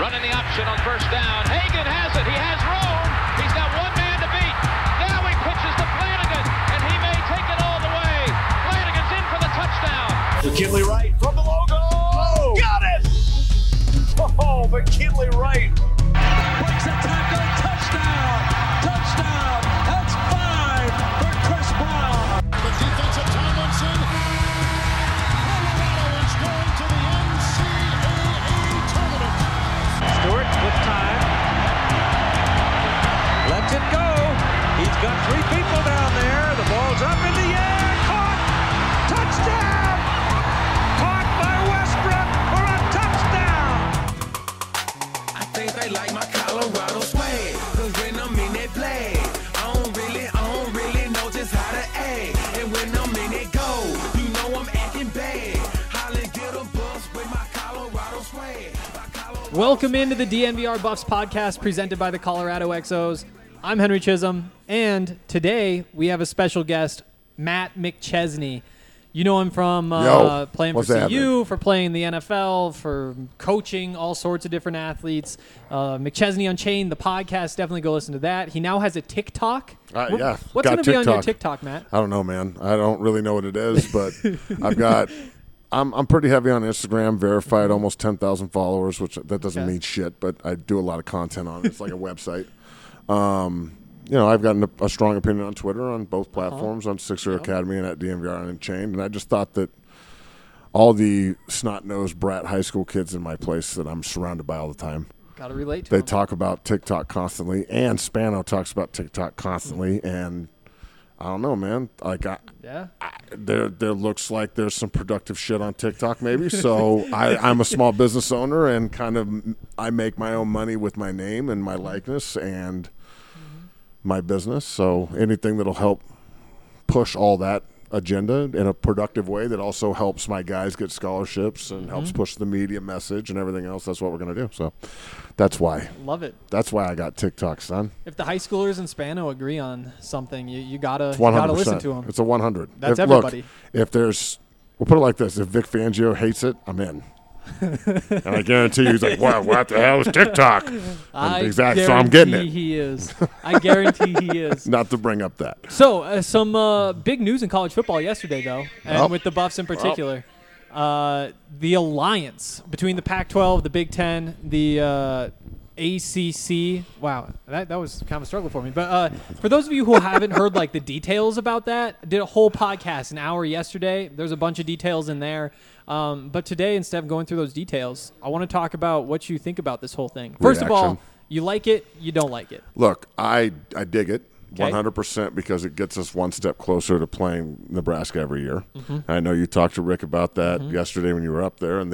Running the option on first down. Hagan has it. He has room. He's got one man to beat. Now he pitches to Flanagan, and he may take it all the way. Flanagan's in for the touchdown. McKinley Wright from the logo. Oh, got it! Oh, McKinley Wright. Breaks a tackle. Touchdown. Touchdown. That's 5 for Chris Brown. The defensive Tomlinson. Colorado is going to the NCAA tournament. Stewart with time. Lets it go. He's got 3 people down there. The ball's up in the air. Caught. Touchdown. Caught by Westbrook for a touchdown. I think they like my Colorado swag. Cause when I'm in that play, I don't really know just how to act. And when I'm in it go, you know I'm acting bad. Holly get a bus with my Colorado swag. Welcome into the DNVR Buffs podcast presented by the Colorado XOs. I'm Henry Chisholm, and today we have a special guest, Matt McChesney. You know him from playing for CU, for playing the NFL, for coaching all sorts of different athletes. McChesney Unchained, the podcast, definitely go listen to that. He now has a TikTok. Yeah. What's going to be on your TikTok, Matt? I don't know, man. I don't really know what it is, but I'm pretty heavy on Instagram, verified, almost 10,000 followers, which that doesn't mean shit, but I do a lot of content on it. It's like a website. I've gotten a strong opinion on Twitter on both platforms, on Sixer Academy and at DNVR Unchained, and I just thought that all the snot-nosed brat high school kids in my place that I'm surrounded by all the time, got to relate to they them. talk about TikTok constantly, and Spano talks about TikTok constantly, and I don't know, man. Like, there looks like there's some productive shit on TikTok, maybe. So I'm a small business owner, and kind of I make my own money with my name and my likeness and my business. So anything that'll help push all that agenda in a productive way that also helps my guys get scholarships and helps push the media message and everything else, that's what we're going to do. So that's why. Love it. That's why I got TikTok, son. If the high schoolers in Spano agree on something, you gotta It's 100%. listen to them. It's a 100. That's everybody. Look, we'll put it like this: if Vic Fangio hates it, I'm in. And I guarantee you, he's like, "Wow, what the hell is TikTok?" So I'm getting it. He is. I guarantee he is. Not to bring up that. So, some big news in college football yesterday, though, and with the Buffs in particular. The alliance between the Pac-12, the Big Ten, the ACC. Wow, that was kind of a struggle for me. But for those of you who haven't heard like the details about that, I did a whole podcast, an hour yesterday. There's a bunch of details in there. But today, instead of going through those details, I want to talk about what you think about this whole thing. First of all, you like it, you don't like it. Look, I dig it 100% because it gets us one step closer to playing Nebraska every year. I know you talked to Rick about that yesterday when you were up there, and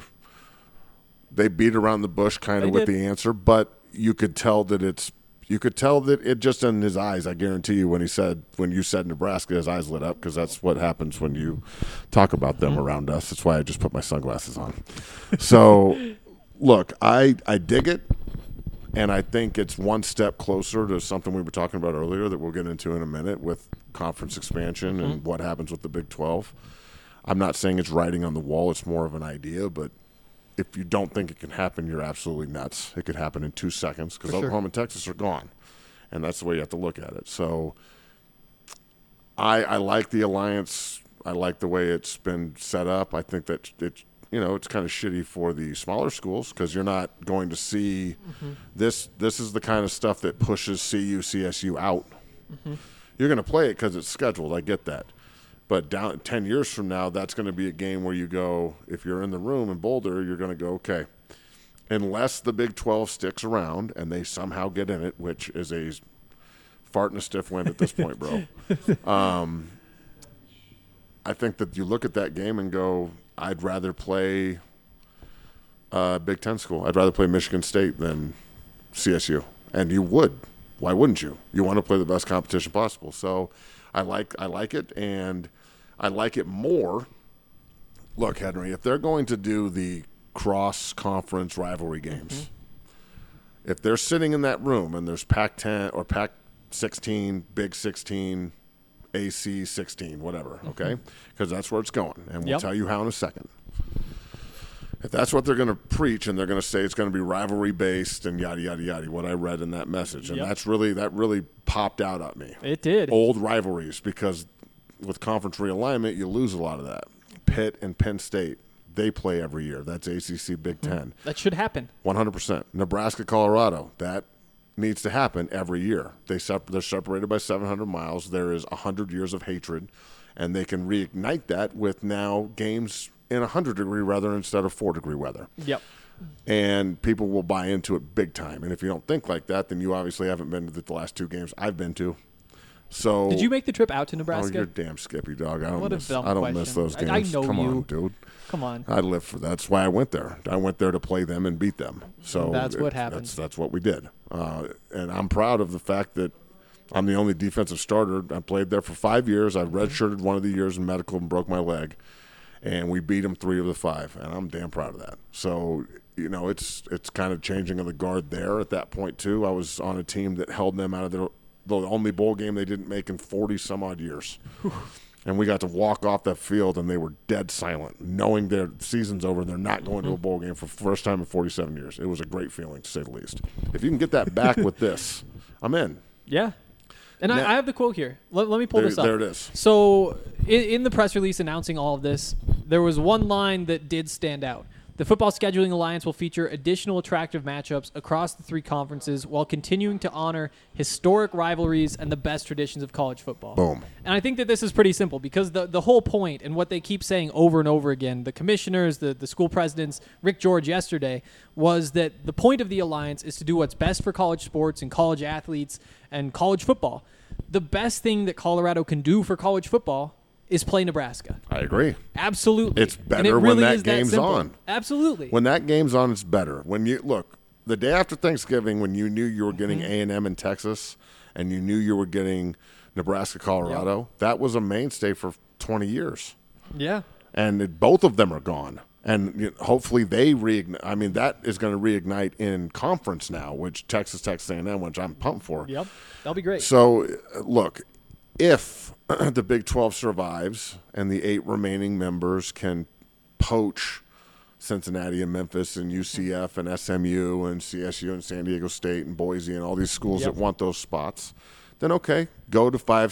they beat around the bush kind of with the answer, but you could tell that it just in his eyes. I guarantee you, when you said Nebraska, his eyes lit up, because that's what happens when you talk about them around us. That's why I just put my sunglasses on. So, look, I dig it, and I think it's one step closer to something we were talking about earlier that we'll get into in a minute with conference expansion and what happens with the Big 12. I'm not saying it's writing on the wall. It's more of an idea, but if you don't think it can happen, you're absolutely nuts. It could happen in 2 seconds because Oklahoma and Texas are gone, and that's the way you have to look at it. So I like the alliance. I like the way it's been set up. I think that it's kind of shitty for the smaller schools because you're not going to see this. This is the kind of stuff that pushes CU, CSU out. You're going to play it because it's scheduled. I get that. But down 10 years from now, that's going to be a game where you go, if you're in the room in Boulder, you're going to go, okay, unless the Big 12 sticks around and they somehow get in it, which is a fart and a stiff wind at this point, bro. I think that you look at that game and go, I'd rather play Big 10 school. I'd rather play Michigan State than CSU. And you would. Why wouldn't you? You want to play the best competition possible. So I like it, and I like it more. Look, Henry, if they're going to do the cross-conference rivalry games, if they're sitting in that room and there's Pac-10 or Pac-16, Big 16, AC 16, whatever, okay? Because that's where it's going, and we'll tell you how in a second. If that's what they're going to preach, and they're going to say it's going to be rivalry based and yada yada yada, what I read in that message, and that really popped out at me. It did. Old rivalries, because with conference realignment, you lose a lot of that. Pitt and Penn State, they play every year. That's ACC Big Ten. That should happen. 100%. Nebraska, Colorado, that needs to happen every year. They're separated by 700 miles. There is 100 years of hatred, and they can reignite that with now games in 100-degree weather instead of 4-degree weather. Yep. And people will buy into it big time. And if you don't think like that, then you obviously haven't been to the last 2 games I've been to. So did you make the trip out to Oh, Nebraska? you're damn Skippy, dog. I don't What a miss dumb miss those question. games. I know Come you. on, dude. Come on. I live for that. That's why I went there. I went there to play them and beat them. So That's what happened. That's what we did. And I'm proud of the fact that I'm the only defensive starter. I played there for 5 years. I redshirted one of the years in medical and broke my leg. And we beat them 3 of the 5. And I'm damn proud of that. So, it's kind of changing of the guard there at that point, too. I was on a team that held them out of the only bowl game they didn't make in 40-some-odd years. And we got to walk off that field, and they were dead silent, knowing their season's over and they're not going to a bowl game for the first time in 47 years. It was a great feeling, to say the least. If you can get that back with this, I'm in. Yeah. And I have the quote here. Let me pull this up. There it is. So in the press release announcing all of this, there was one line that did stand out. The Football Scheduling Alliance will feature additional attractive matchups across the 3 conferences while continuing to honor historic rivalries and the best traditions of college football. Boom. And I think that this is pretty simple because the whole point and what they keep saying over and over again, the commissioners, the school presidents, Rick George yesterday, was that the point of the alliance is to do what's best for college sports and college athletes and college football. The best thing that Colorado can do for college football is play Nebraska. I agree. Absolutely. It's better and it when really that is game's simple. on. Absolutely. When that game's on, it's better. When you look, the day after Thanksgiving, when you knew you were getting A&M in Texas and you knew you were getting Nebraska, Colorado, that was a mainstay for 20 years. Yeah. And both of them are gone. And hopefully they reignite. I mean, that is going to reignite in conference now, which Texas A&M, which I'm pumped for. Yep. That'll be great. So, look, if the Big 12 survives and the 8 remaining members can poach Cincinnati and Memphis and UCF and SMU and CSU and San Diego State and Boise and all these schools that want those spots, then okay, go to 5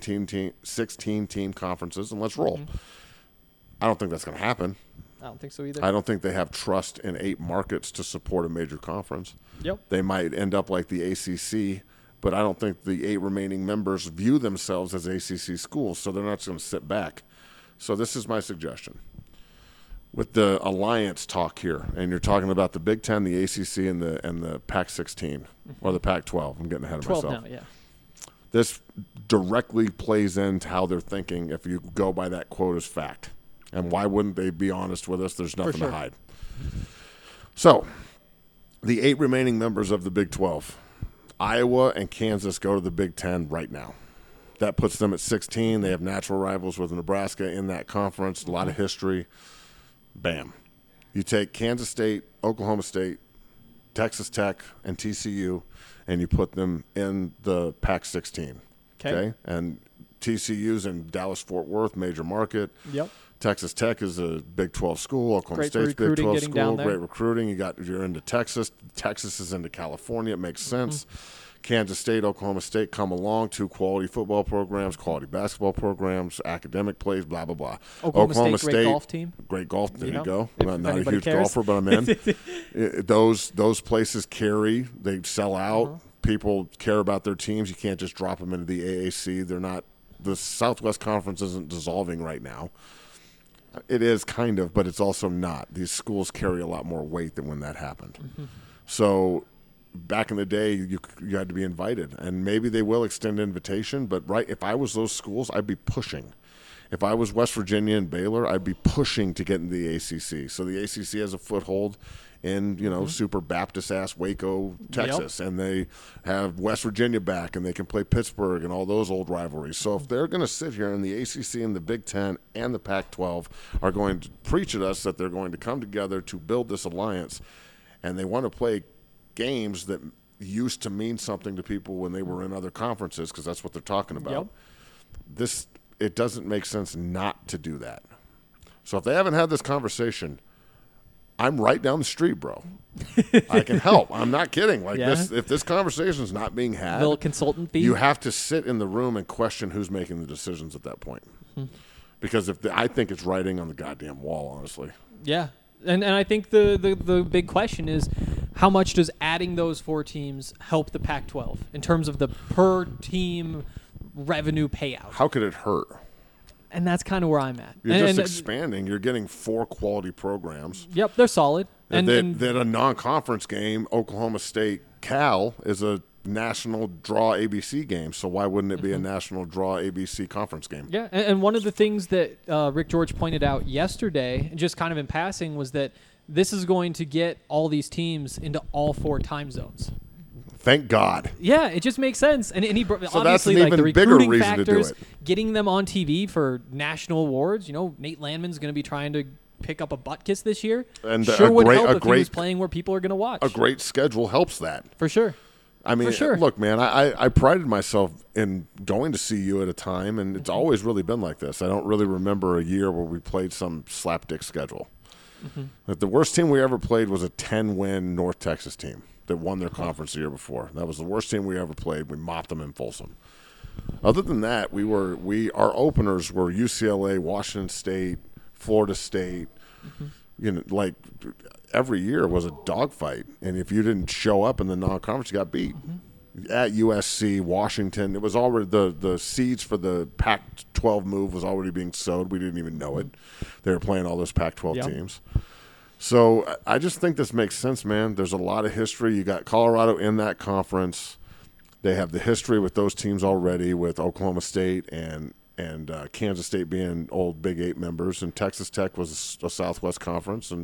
16-team conferences and let's roll. I don't think that's going to happen. I don't think so either. I don't think they have trust in 8 markets to support a major conference. Yep. They might end up like the ACC, but I don't think the 8 remaining members view themselves as ACC schools, so they're not just going to sit back. So this is my suggestion. With the alliance talk here, and you're talking about the Big Ten, the ACC, and the Pac-16, or the Pac-12. I'm getting ahead of 12 myself. now, yeah. This directly plays into how they're thinking if you go by that quote as fact. And why wouldn't they be honest with us? There's nothing to hide. So, the 8 remaining members of the Big 12, Iowa and Kansas go to the Big 10 right now. That puts them at 16. They have natural rivals with Nebraska in that conference, a lot of history. Bam. You take Kansas State, Oklahoma State, Texas Tech, and TCU, and you put them in the Pac-16. Okay? And TCU's in Dallas-Fort Worth, major market. Yep. Texas Tech is a Big 12 school. Oklahoma Great for State's Big 12 recruiting, getting down school. there. Great recruiting. You're into Texas. Texas is into California. It makes sense. Kansas State, Oklahoma State come along. 2 quality football programs, quality basketball programs, academic plays, blah, blah, blah. Oklahoma State, great golf team. Great golf. There you go. If Not a anybody huge cares. golfer, but I'm in. Those places carry. They sell out. People care about their teams. You can't just drop them into the AAC. They're not. The Southwest Conference isn't dissolving right now. It is kind of, but it's also not. These schools carry a lot more weight than when that happened. So back in the day, you had to be invited, and maybe they will extend invitation. But if I was those schools, I'd be pushing. If I was West Virginia and Baylor, I'd be pushing to get into the ACC. So the ACC has a foothold in, super Baptist-ass Waco, Texas. And they have West Virginia back, and they can play Pittsburgh and all those old rivalries. So if they're going to sit here and the ACC and the Big Ten and the Pac-12 are going to preach at us that they're going to come together to build this alliance, and they want to play games that used to mean something to people when they were in other conferences, because that's what they're talking about, it doesn't make sense not to do that. So if they haven't had this conversation, I'm right down the street, bro. I can help. I'm not kidding. Like Yeah. this, if this conversation is not being had, Little consultant fee. you have to sit in the room and question who's making the decisions at that point. Because I think it's writing on the goddamn wall, honestly. Yeah. And I think the big question is, how much does adding those 4 teams help the Pac-12 in terms of the per team revenue payout? How could it hurt? And that's kind of where I'm at. You're And- just expanding. You're getting 4 quality programs. Yep, they're solid. And that a non-conference game, Oklahoma State Cal, is a national draw ABC game. So why wouldn't it be a national draw ABC conference game? yeah, and one of the things that Rick George pointed out yesterday, just kind of in passing, was that this is going to get all these teams into all 4 time zones. Thank God. Yeah, it just makes sense. And he that's obviously an like the even bigger recruiting reason to do factors, it. getting them on TV for national awards. You know, Nate Landman's going to be trying to pick up a butt kiss this year. And sure would help if he was playing where people are going to watch. A great schedule helps that. For sure. I mean, For sure. look, man, I prided myself in going to see you at a time, and it's always really been like this. I don't really remember a year where we played some slapdick schedule. But the worst team we ever played was a 10-win North Texas team that won their conference the year before. That was the worst team we ever played. We mopped them in Folsom. Other than that, our openers were UCLA, Washington State, Florida State. You know, like every year was a dogfight, and if you didn't show up in the non-conference, you got beat. At USC, Washington, it was already the seeds for the Pac-12 move was already being sowed. We didn't even know it. They were playing all those Pac-12 teams. So I just think this makes sense, man. There's a lot of history. You got Colorado in that conference. They have the history with those teams already, with Oklahoma State and Kansas State being old Big 8 members, and Texas Tech was a Southwest Conference, and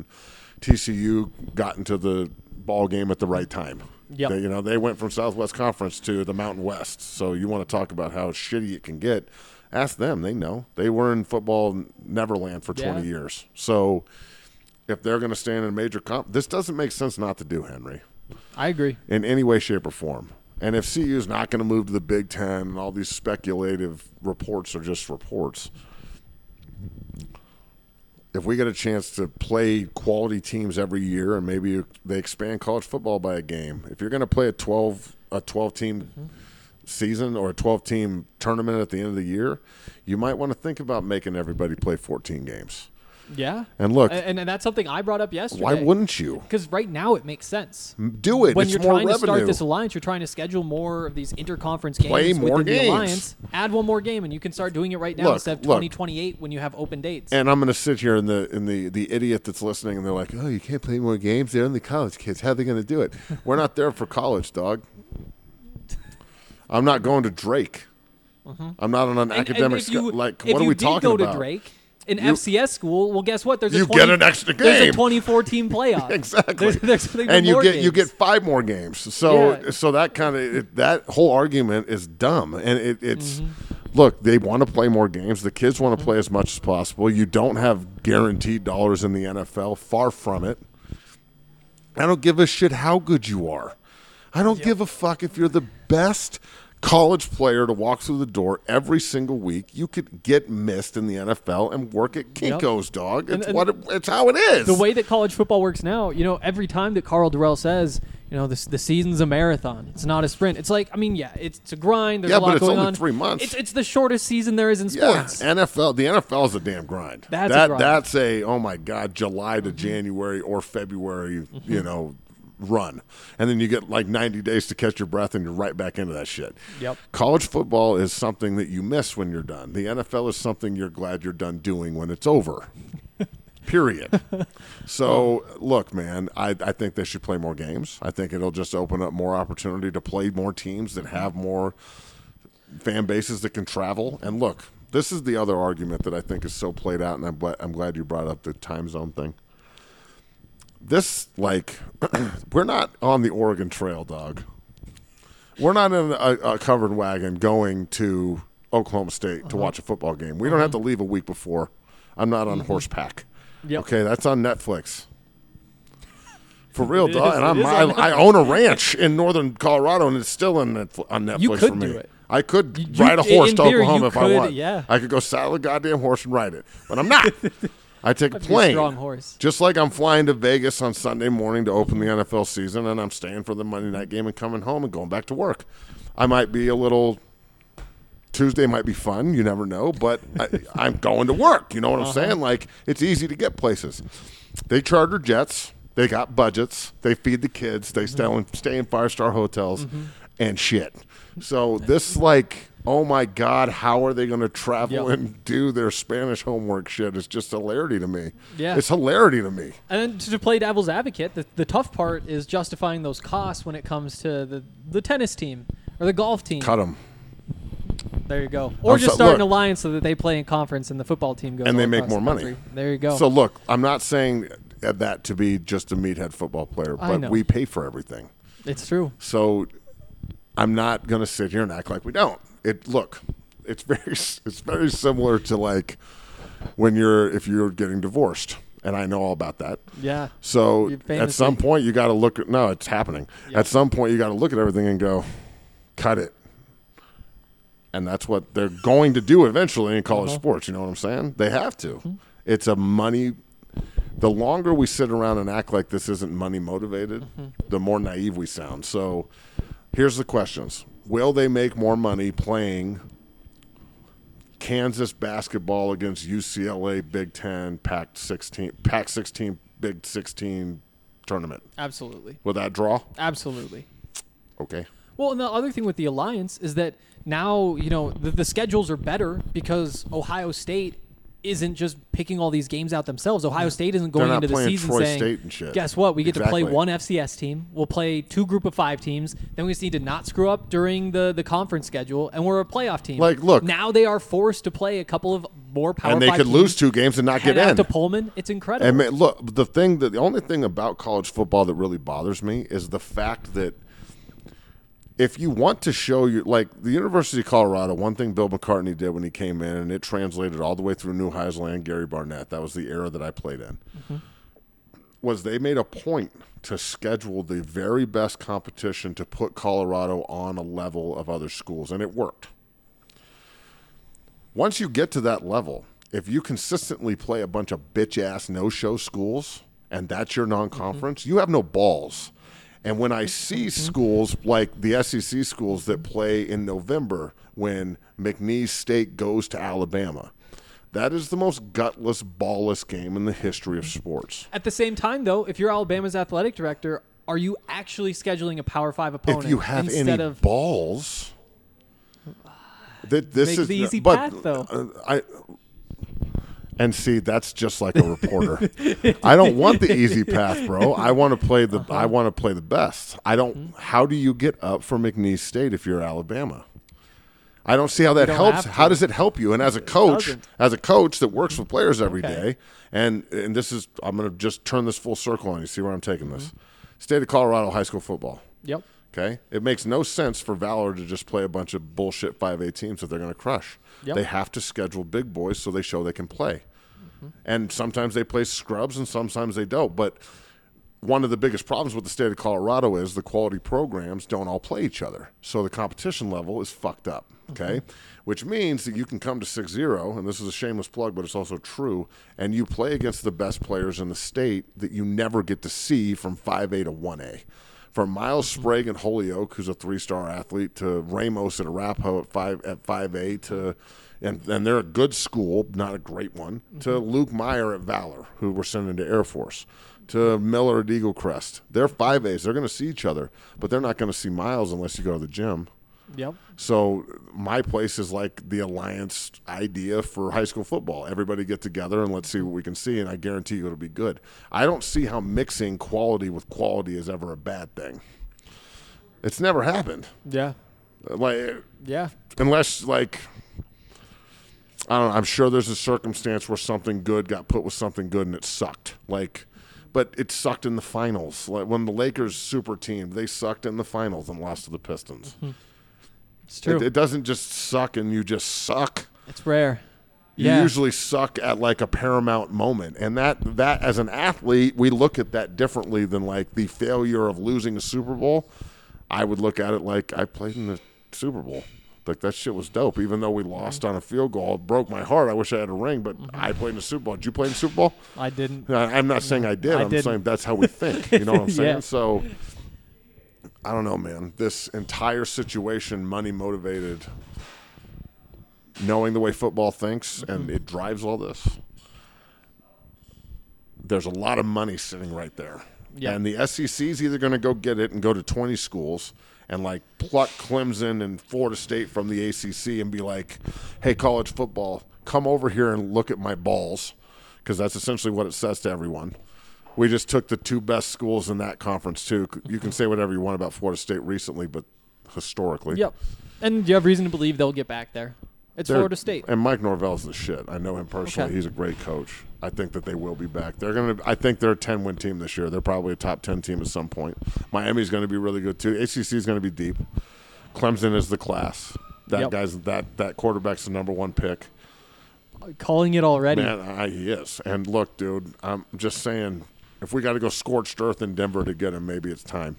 TCU got into the ball game at the right time. Yep. They went from Southwest Conference to the Mountain West. So you want to talk about how shitty it can get? Ask them. They know. They were in football Neverland for 20 years. So if they're going to stand in a major comp, this doesn't make sense not to do, Henry. I agree. In any way, shape, or form. And if CU is not going to move to the Big Ten, and all these speculative reports are just reports, if we get a chance to play quality teams every year, and maybe they expand college football by a game, if you're going to play a 12-team season or a 12-team tournament at the end of the year, you might want to think about making everybody play 14 games. Yeah. And look, and that's something I brought up yesterday. why wouldn't you? Because right now it makes sense. Do it. When It's you're more trying to revenue. start this alliance, you're trying to schedule more of these interconference games Play more within the games. alliance. Add one more game, and you can start doing it right now Look, instead of look. 2028 when you have open dates. And I'm going to sit here in the idiot that's listening, and they're like, "Oh, you can't play more games. They're only college kids. How are they going to do it?" We're not there for college, dog. I'm not going to Drake. I'm not on an academic. if you, what if are you we did talking go about? to Drake, an FCS school, well, guess what? There's a You 20, get an extra There's game. a 24-team playoff. Exactly. There's even and you more get games. 5 more games. So Yeah. so that kind of that whole argument is dumb. And it's look, they want to play more games. The kids want to play as much as possible. You don't have guaranteed dollars in the NFL. Far from it. I don't give a shit how good you are. I don't give a fuck if you're the best college player to walk through the door every single week. You could get missed in the NFL and work at Kinko's, dog. It's And it's how it is. The way that college football works now, every time that Carl Durrell says, the season's a marathon, it's not a sprint. It's like, it's a grind. There's a lot but it's going only on. 3 months. It's the shortest season there is in sports. Yeah, NFL. The NFL is a damn grind. That's a grind. That's a oh my god, July to January or February, run, and then you get like 90 days to catch your breath, and you're right back into that shit. Yep. College football is something that you miss when you're done. The NFL is something you're glad you're done doing when it's over. Period. So, look, man, I think they should play more games. I think it'll just open up more opportunity to play more teams that have more fan bases that can travel. And look, this is the other argument that I think is so played out, and I'm glad you brought up the time zone thing. This, we're not on the Oregon Trail, dog. We're not in a covered wagon going to Oklahoma State to watch a football game. We don't have to leave a week before. I'm not on Horsepack. Yep. Okay, that's on Netflix. For real, It dog. is- And it is on I own a ranch in northern Colorado, and it's still on Netflix You could for me. do it. I could You- ride a horse in to theory, Oklahoma you if I could, want. yeah. I could go saddle a goddamn horse and ride it, but I'm not. I take a That'd be a plane. strong horse. Just like I'm flying to Vegas on Sunday morning to open the NFL season, and I'm staying for the Monday night game and coming home and going back to work. I might be a little Tuesday might be fun. You never know, but I'm going to work. You know what I'm saying? Like, it's easy to get places. They charter jets. They got budgets. They feed the kids. They stay in 5-star hotels and shit. So this, like, oh my God, how are they going to travel and do their Spanish homework shit? It's just hilarity to me. Yeah. It's hilarity to me. And then to play devil's advocate, the tough part is justifying those costs when it comes to the tennis team or the golf team. Cut them. There you go. Or just start an alliance so that they play in conference and the football team goes and they all make across more the money. country. There you go. So look, I'm not saying that to be just a meathead football player, but we pay for everything. It's true. So I'm not going to sit here and act like we don't. It's very similar to like if you're getting divorced, and I know all about that. Yeah. So at some point you got to look at it's happening. Yep. At some point you got to look at everything and go, cut it. And that's what they're going to do eventually in college sports. You know what I'm saying? They have to. It's a money. The longer we sit around and act like this isn't money motivated, the more naive we sound. So here's the questions. Will they make more money playing Kansas basketball against UCLA Big 10 Pac-16 Big 16 tournament? Absolutely. Will that draw? Absolutely. Okay. Well, and the other thing with the alliance is that now, the schedules are better because Ohio State isn't just picking all these games out themselves. Ohio State isn't going into the season Troy saying, State and shit. Guess what? We get to play one FCS team. We'll play 2 group of 5 teams. Then we just need to not screw up during the conference schedule, and we're a playoff team. Like, look. Now they are forced to play a couple of more Power 5 and they could teams, lose 2 games and not get head out in. to Pullman. It's incredible. And man, look, the only thing about college football that really bothers me is the fact that if you want to show like the University of Colorado, one thing Bill McCartney did when he came in, and it translated all the way through New Heisler and Gary Barnett, that was the era that I played in, was they made a point to schedule the very best competition to put Colorado on a level of other schools, and it worked. Once you get to that level, if you consistently play a bunch of bitch-ass no-show schools, and that's your non-conference, you have no balls. And when I see schools like the SEC schools that play in November when McNeese State goes to Alabama, that is the most gutless, ballless game in the history of sports. At the same time, though, if you're Alabama's athletic director, are you actually scheduling a Power 5 opponent if you have instead any of balls? This Make is the easy but, path, though. And see, that's just like a reporter. I don't want the easy path, bro. I want to play the. I want to play the best. I don't. How do you get up for McNeese State if you're Alabama? I don't see how that helps. How does it help you? And as a coach, that works with players every day, and this is, I'm going to just turn this full circle on you. See where I'm taking this? State of Colorado high school football. Yep. Okay, it makes no sense for Valor to just play a bunch of bullshit 5A teams that they're going to crush. Yep. They have to schedule big boys so they show they can play. And sometimes they play scrubs and sometimes they don't. But one of the biggest problems with the state of Colorado is the quality programs don't all play each other. So the competition level is fucked up, okay? Which means that you can come to 6-0, and this is a shameless plug, but it's also true, and you play against the best players in the state that you never get to see from 5A to 1A. From Miles Sprague in Holyoke, who's a 3-star athlete, to Ramos at Arapahoe at 5A, to and they're a good school, not a great one, to Luke Meyer at Valor, who we're sending to Air Force, to Miller at Eagle Crest. They're 5As. They're going to see each other, but they're not going to see Miles unless you go to the gym. Yep. So my place is like the alliance idea for high school football. Everybody get together and let's see what we can see, and I guarantee you it'll be good. I don't see how mixing quality with quality is ever a bad thing. It's never happened. Yeah. Unless, like, I don't know, I'm sure there's a circumstance where something good got put with something good and it sucked. But it sucked in the finals. Like when the Lakers super teamed, they sucked in the finals and lost to the Pistons. It's true. It doesn't just suck and you just suck. It's rare. You usually suck at like a paramount moment. And that as an athlete, we look at that differently than like the failure of losing a Super Bowl. I would look at it like I played in the Super Bowl. Like, that shit was dope. Even though we lost on a field goal, it broke my heart. I wish I had a ring, but I played in the Super Bowl. Did you play in the Super Bowl? I didn't. I'm not saying I did. I'm didn't. saying that's how we think. You know what I'm saying? Yeah. So, I don't know, man. This entire situation, money motivated, knowing the way football thinks, and it drives all this. There's a lot of money sitting right there. Yeah. And the SEC is either going to go get it and go to 20 schools and, like, pluck Clemson and Florida State from the ACC and be like, hey, college football, come over here and look at my balls, because that's essentially what it says to everyone. We just took the 2 best schools in that conference, too. You can say whatever you want about Florida State recently, but historically. Yep. And you have reason to believe they'll get back there. It's Florida State. And Mike Norvell's the shit. I know him personally. Okay. He's a great coach. I think that they will be back. I think they're a 10-win team this year. They're probably a top 10 team at some point. Miami's going to be really good too. ACC is going to be deep. Clemson is the class. That quarterback's the number 1 pick. Calling it already. Man, he is. And look, dude, I'm just saying, if we got to go scorched earth in Denver to get him, maybe it's time.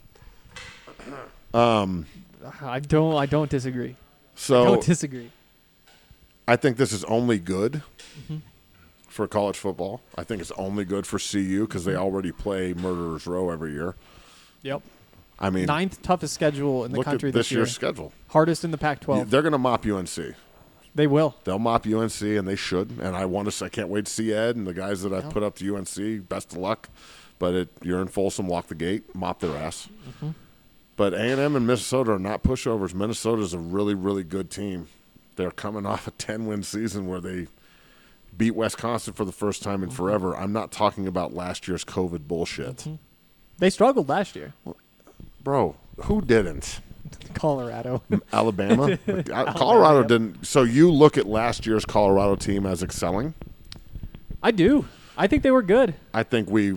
I don't disagree. So I don't disagree. I think this is only good for college football. I think it's only good for CU because they already play Murderers Row every year. Yep. I mean, 9th toughest schedule in the look country at this year. year's schedule. Hardest in the Pac-12. They're going to mop UNC. They will. They'll mop UNC, and they should. And I can't wait to see Ed and the guys that I've put up to UNC. Best of luck. But you're in Folsom, lock the gate, mop their ass. But A&M and Minnesota are not pushovers. Minnesota's a really, really good team. They're coming off a 10-win season where they beat Wisconsin for the first time in forever. I'm not talking about last year's COVID bullshit. They struggled last year. Bro, who didn't? Colorado. Alabama? Colorado didn't. So you look at last year's Colorado team as excelling? I do. I think they were good. I think we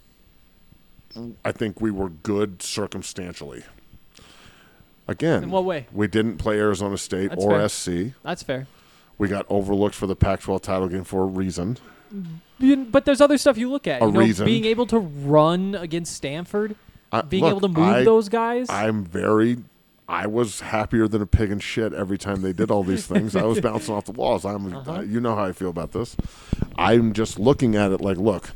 were good circumstantially. Again, In what way? We didn't play Arizona State That's or fair. SC. That's fair. We got overlooked for the Pac-12 title game for a reason. But there's other stuff you look at. Reason. Being able to run against Stanford, being Look, able to move those guys. I was happier than a pig in shit every time they did all these things. I was bouncing off the walls. You know how I feel about this. I'm just looking at it like, look,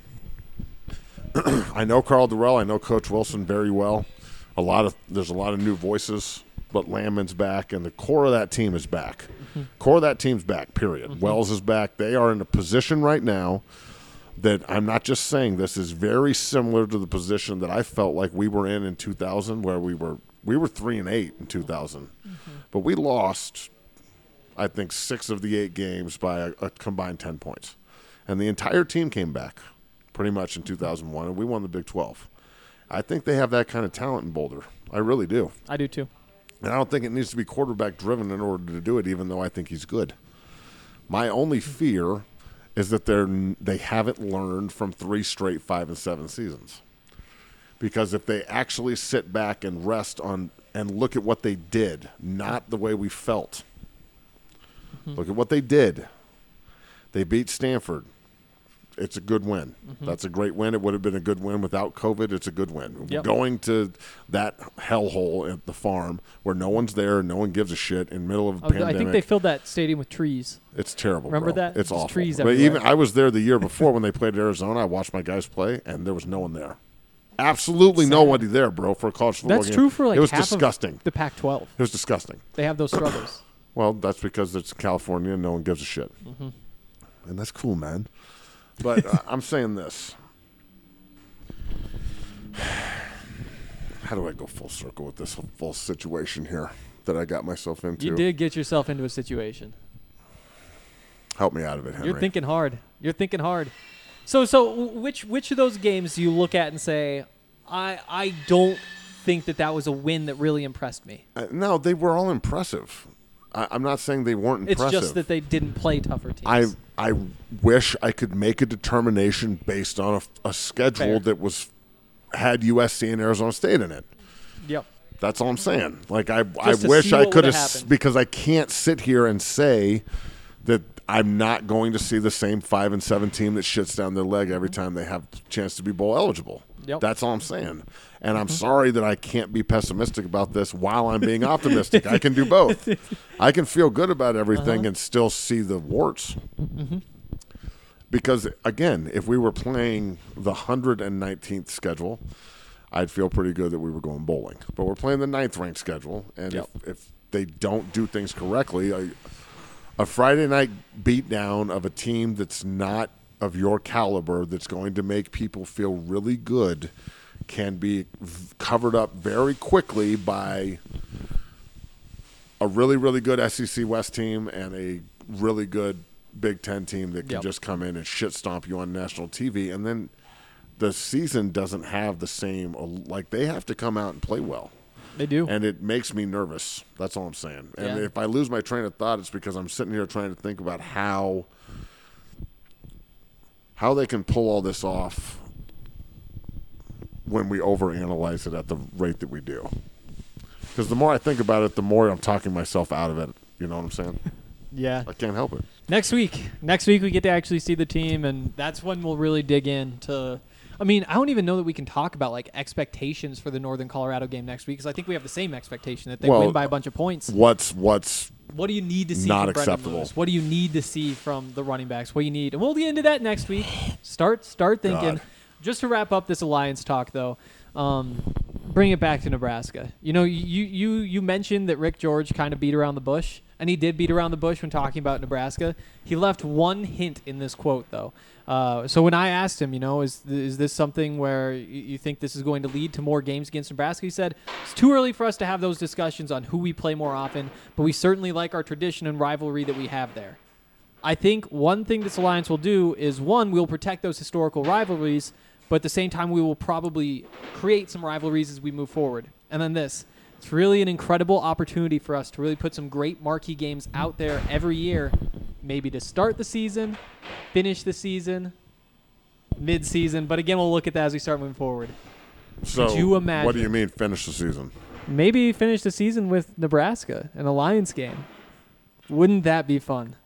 I know Carl Durrell. I know Coach Wilson very well. There's a lot of new voices, but Landman's back, and the core of that team is back. Core of that team's back, period. Wells is back. They are in a position right now that I'm not just saying this is very similar to the position that I felt like we were in 2000, where we were 3-8 in 2000, but we lost, I think, 6 of the 8 games by a combined 10 points, and the entire team came back pretty much in 2001, and we won the Big 12. I think they have that kind of talent in Boulder. I really do. I do too. And I don't think it needs to be quarterback driven in order to do it, even though I think he's good. My only fear is that they haven't learned from 3 straight 5-7 seasons. Because if they actually sit back and rest on and look at what they did, not the way we felt. Look at what they did. They beat Stanford. It's a good win. That's a great win. It would have been a good win without COVID. It's a good win. Yep. Going to that hellhole at the farm where no one's there, no one gives a shit in the middle of a pandemic. I think they filled that stadium with trees. It's terrible. Remember bro. that? It's Just awful. trees But everywhere. even I was there the year before when they played at Arizona. I watched my guys play, and there was no one there. Absolutely nobody there, bro, for a college football That's game. true for like it was half disgusting. of the Pac-12. It was disgusting. They have those struggles. Well, that's because it's California and no one gives a shit. And that's cool, man. But I'm saying this. How do I go full circle with this whole situation here that I got myself into? You did get yourself into a situation. Help me out of it, Henry. You're thinking hard. So which of those games do you look at and say, I don't think that was a win that really impressed me? No, they were all impressive. I'm not saying they weren't impressive. It's just that they didn't play tougher teams. I wish I could make a determination based on a schedule Fair. that had USC and Arizona State in it. Yep. That's all I'm saying. Like I to wish see I what could would've have, happened. because I can't sit here and say that I'm not going to see the same 5-7 team that shits down their leg every time they have a chance to be bowl eligible. Yep. That's all I'm saying. And I'm sorry that I can't be pessimistic about this while I'm being optimistic. I can do both. I can feel good about everything and still see the warts. Because, again, if we were playing the 119th schedule, I'd feel pretty good that we were going bowling. But we're playing the 9th ranked schedule, and if they don't do things correctly, a Friday night beatdown of a team that's not of your caliber, that's going to make people feel really good, can be covered up very quickly by a really, really good SEC West team and a really good Big Ten team that can just come in and shit stomp you on national TV. And then the season doesn't have the same, like, they have to come out and play well. They do. And it makes me nervous. That's all I'm saying. And if I lose my train of thought, it's because I'm sitting here trying to think about how they can pull all this off when we overanalyze it at the rate that we do. Because the more I think about it, the more I'm talking myself out of it. You know what I'm saying? Yeah. I can't help it. Next week we get to actually see the team, and that's when we'll really dig into. I mean, I don't even know that we can talk about like expectations for the Northern Colorado game next week, because I think we have the same expectation that they win by a bunch of points. What do you need to see not from Brendan acceptable? Lewis? What do you need to see from the running backs? What do you need? And we'll get into that next week. Start thinking. God. Just to wrap up this Alliance talk, though, bring it back to Nebraska. You know, you mentioned that Rick George kind of beat around the bush, and he did beat around the bush when talking about Nebraska. He left one hint in this quote, though. So when I asked him, you know, is this something where you think this is going to lead to more games against Nebraska? He said, it's too early for us to have those discussions on who we play more often, but we certainly like our tradition and rivalry that we have there. I think one thing this alliance will do is, one, we'll protect those historical rivalries, but at the same time we will probably create some rivalries as we move forward. And then this. It's really an incredible opportunity for us to really put some great marquee games out there every year, maybe to start the season, finish the season, mid-season. But again, we'll look at that as we start moving forward. So Could you imagine? What do you mean finish the season? Maybe finish the season with Nebraska, an Alliance game. Wouldn't that be fun?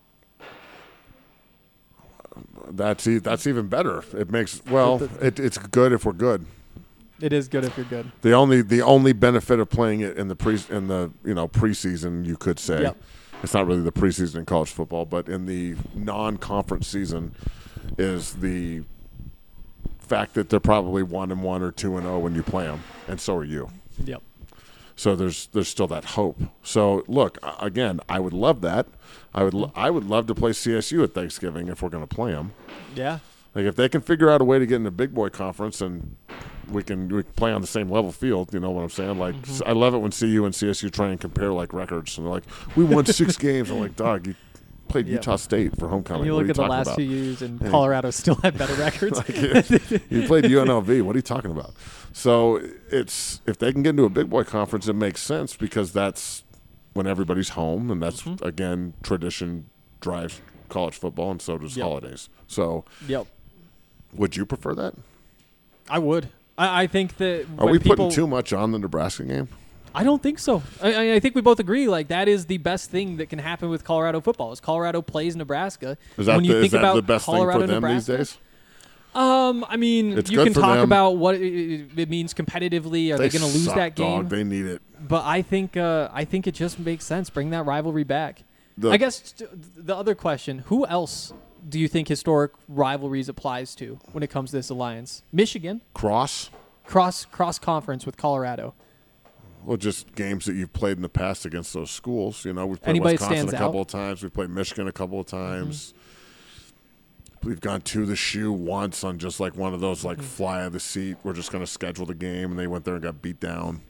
That's even better. It makes it's good if we're good. It is good if you're good. The only benefit of playing it in the preseason, you could say, it's not really the preseason in college football, but in the non-conference season, is the fact that they're probably 1-1 or 2-0 when you play them, and so are you. Yep. So there's still that hope. So look, again, I would love that. I would love to play CSU at Thanksgiving if we're going to play them. Yeah. Like if they can figure out a way to get in a big boy conference and we can play on the same level field, you know what I'm saying? Like I love it when CU and CSU try and compare like records and they're like, we won 6 games. I'm like, dog, you played Utah State for homecoming. And you what look are at the talking last about? 2 years, and Colorado still had better records. You played UNLV. What are you talking about? So it's if they can get into a big boy conference, it makes sense because that's when everybody's home, and that's again tradition drives college football, and so does holidays. So, would you prefer that? I would. I think that are we putting too much on the Nebraska game? I don't think so. I think we both agree. Like that is the best thing that can happen with Colorado football. Is Colorado plays Nebraska. Is that, the best Colorado, thing for them Nebraska, these days? I mean, it's you can talk them. about what it means competitively. Are they going to lose that game? Dog. They need it. But I think it just makes sense. Bring that rivalry back. I guess the other question: who else do you think historic rivalries applies to when it comes to this alliance? Michigan. Cross conference with Colorado. Well, just games that you've played in the past against those schools. You know, we've played Anybody Wisconsin a couple out? of times. We've played Michigan a couple of times. We've gone to the shoe once on just like one of those like fly of the seat. We're just going to schedule the game, and they went there and got beat down.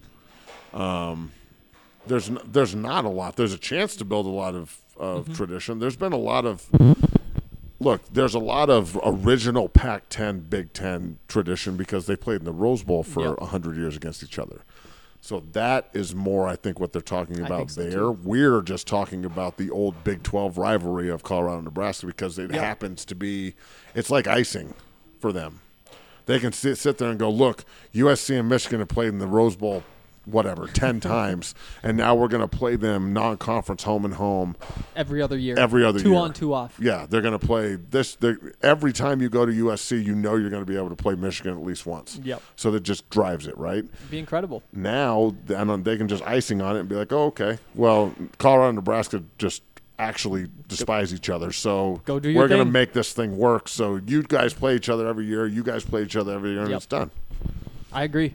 There's not a lot. There's a chance to build a lot of tradition. There's been a lot of there's a lot of original Pac-10, Big Ten tradition because they played in the Rose Bowl for 100 years against each other. So that is more, I think, what they're talking about there. So We're just talking about the old Big 12 rivalry of Colorado and Nebraska because it happens to be – it's like icing for them. They can sit there and go, look, USC and Michigan have played in the Rose Bowl whatever 10 times, and now we're going to play them non-conference home and home every other year. Two on, two off. Yeah, they're going to play this. Every time you go to USC, you know you're going to be able to play Michigan at least once. Yep. So that just drives it, right? It'd be incredible. Now, and they can just icing on it and be like, oh, okay. Well, Colorado and Nebraska just actually despise each other. So Go do your we're going to thing. make this thing work. So you guys play each other every year. You guys play each other every year, and it's done. I agree.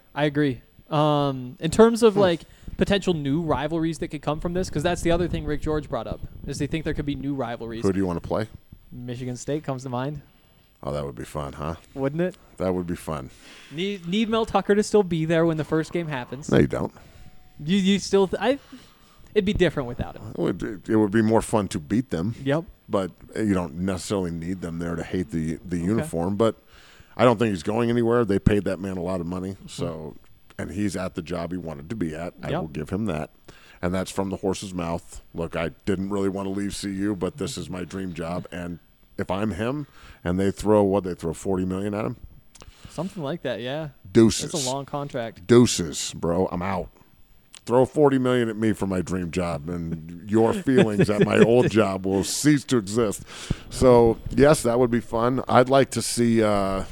In terms of like potential new rivalries that could come from this, because that's the other thing Rick George brought up, is they think there could be new rivalries. Who do you want to play? Michigan State comes to mind. Oh, that would be fun, huh? Wouldn't it? That would be fun. Need Mel Tucker to still be there when the first game happens. No, you don't. You still it'd be different without him. It would be more fun to beat them. Yep. But you don't necessarily need them there to hate the uniform. But I don't think he's going anywhere. They paid that man a lot of money, so and he's at the job he wanted to be at. I will give him that. And that's from the horse's mouth. Look, I didn't really want to leave CU, but this is my dream job. And if I'm him and they throw $40 million at him? Something like that, yeah. Deuces. It's a long contract. Deuces, bro. I'm out. Throw $40 million at me for my dream job, and your feelings at my old job will cease to exist. So, yes, that would be fun. I'd like to see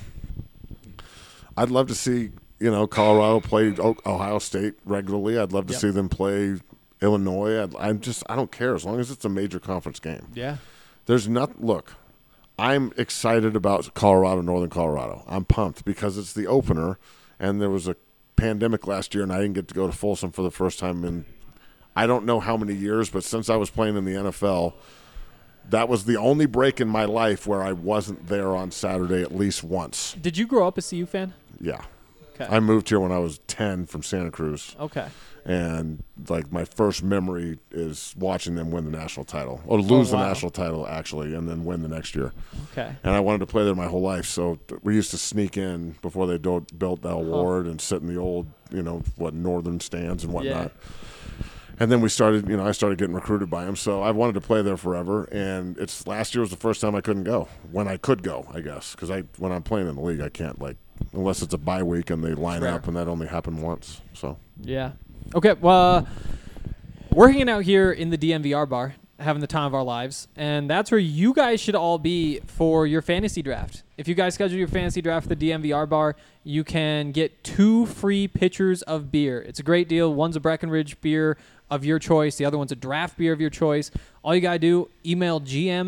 I'd love to see, Colorado play Ohio State regularly. I'd love to see them play Illinois. I don't care as long as it's a major conference game. Yeah. Look, I'm excited about Northern Colorado. I'm pumped because it's the opener, and there was a pandemic last year, and I didn't get to go to Folsom for the first time in I don't know how many years, but since I was playing in the NFL, that was the only break in my life where I wasn't there on Saturday at least once. Did you grow up a CU fan? Yeah. Okay. I moved here when I was 10 from Santa Cruz. Okay. And, my first memory is watching them win the national title. Or lose the national title, actually, and then win the next year. Okay. And I wanted to play there my whole life, so we used to sneak in before they built Bell Ward and sit in the old, northern stands and whatnot. Yeah. And then I started getting recruited by him. So I wanted to play there forever. And last year was the first time I couldn't go. When I could go, I guess. Because when I'm playing in the league, I can't, unless it's a bye week and they line up, and that only happened once. So yeah. Okay, well, we're hanging out here in the DMVR bar, having the time of our lives, and that's where you guys should all be for your fantasy draft. If you guys schedule your fantasy draft for the DMVR bar, you can get 2 free pitchers of beer. It's a great deal. One's a Breckenridge beer of your choice. The other one's a draft beer of your choice. All you got to do, email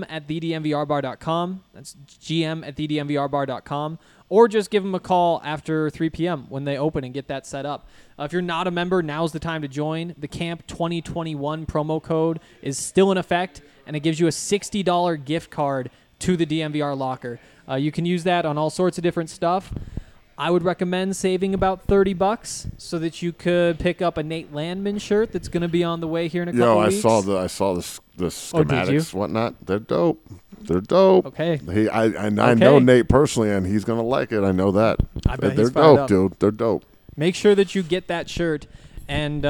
gm@thedmvrbar.com. That's gm@thedmvrbar.com. Or just give them a call after 3 p.m. when they open and get that set up. If you're not a member, now's the time to join. The Camp 2021 promo code is still in effect, and it gives you a $60 gift card to the DMVR locker. You can use that on all sorts of different stuff. I would recommend saving about $30 so that you could pick up a Nate Landman shirt that's going to be on the way here in a couple weeks. I saw the schematics, whatnot. They're dope. Okay. I know Nate personally, and he's going to like it. I know that. I bet they're he's fired dope, up. dude. They're dope. Make sure that you get that shirt, and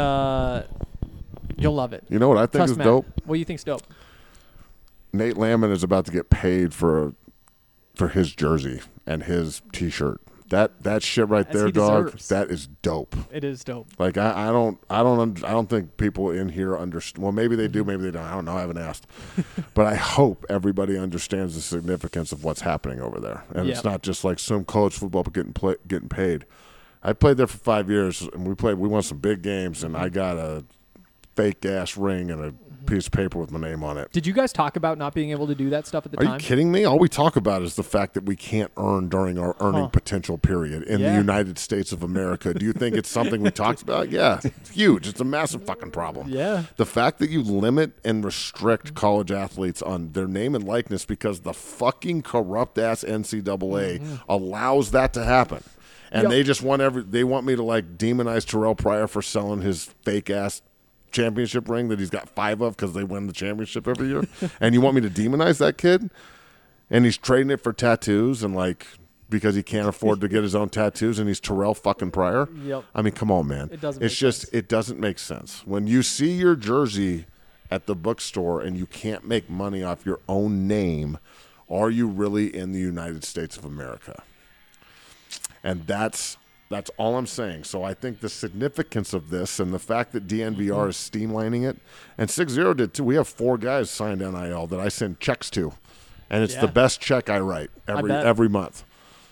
you'll love it. You know what I think Trust is Matt. dope? What do you think's dope? Nate Landman is about to get paid for his jersey and his T-shirt. That shit right there, dog. Deserves. That is dope. It is dope. I don't think people in here understand. Well, maybe they do, maybe they don't. I don't know. I haven't asked, but I hope everybody understands the significance of what's happening over there, and it's not just like some college football getting paid. I played there for 5 years, and we won some big games, and I got a fake ass ring and a piece of paper with my name on it. Did you guys talk about not being able to do that stuff at the time? Are you kidding me? All we talk about is the fact that we can't earn during our earning potential period in the United States of America. Do you think it's something we talked about? Yeah, it's huge. It's a massive fucking problem. Yeah. The fact that you limit and restrict college athletes on their name and likeness because the fucking corrupt-ass NCAA allows that to happen. And they just want they want me to demonize Terrell Pryor for selling his fake-ass championship ring that he's got 5 of because they win the championship every year. And you want me to demonize that kid? And he's trading it for tattoos and because he can't afford to get his own tattoos and he's Terrell fucking Pryor? Yep. I mean, come on, man. It doesn't It doesn't make sense. When you see your jersey at the bookstore and you can't make money off your own name, are you really in the United States of America? And that's That's all I'm saying. So I think the significance of this and the fact that DNVR is streamlining it, and 6-0 did too. We have 4 guys signed NIL that I send checks to, and it's the best check I write every month.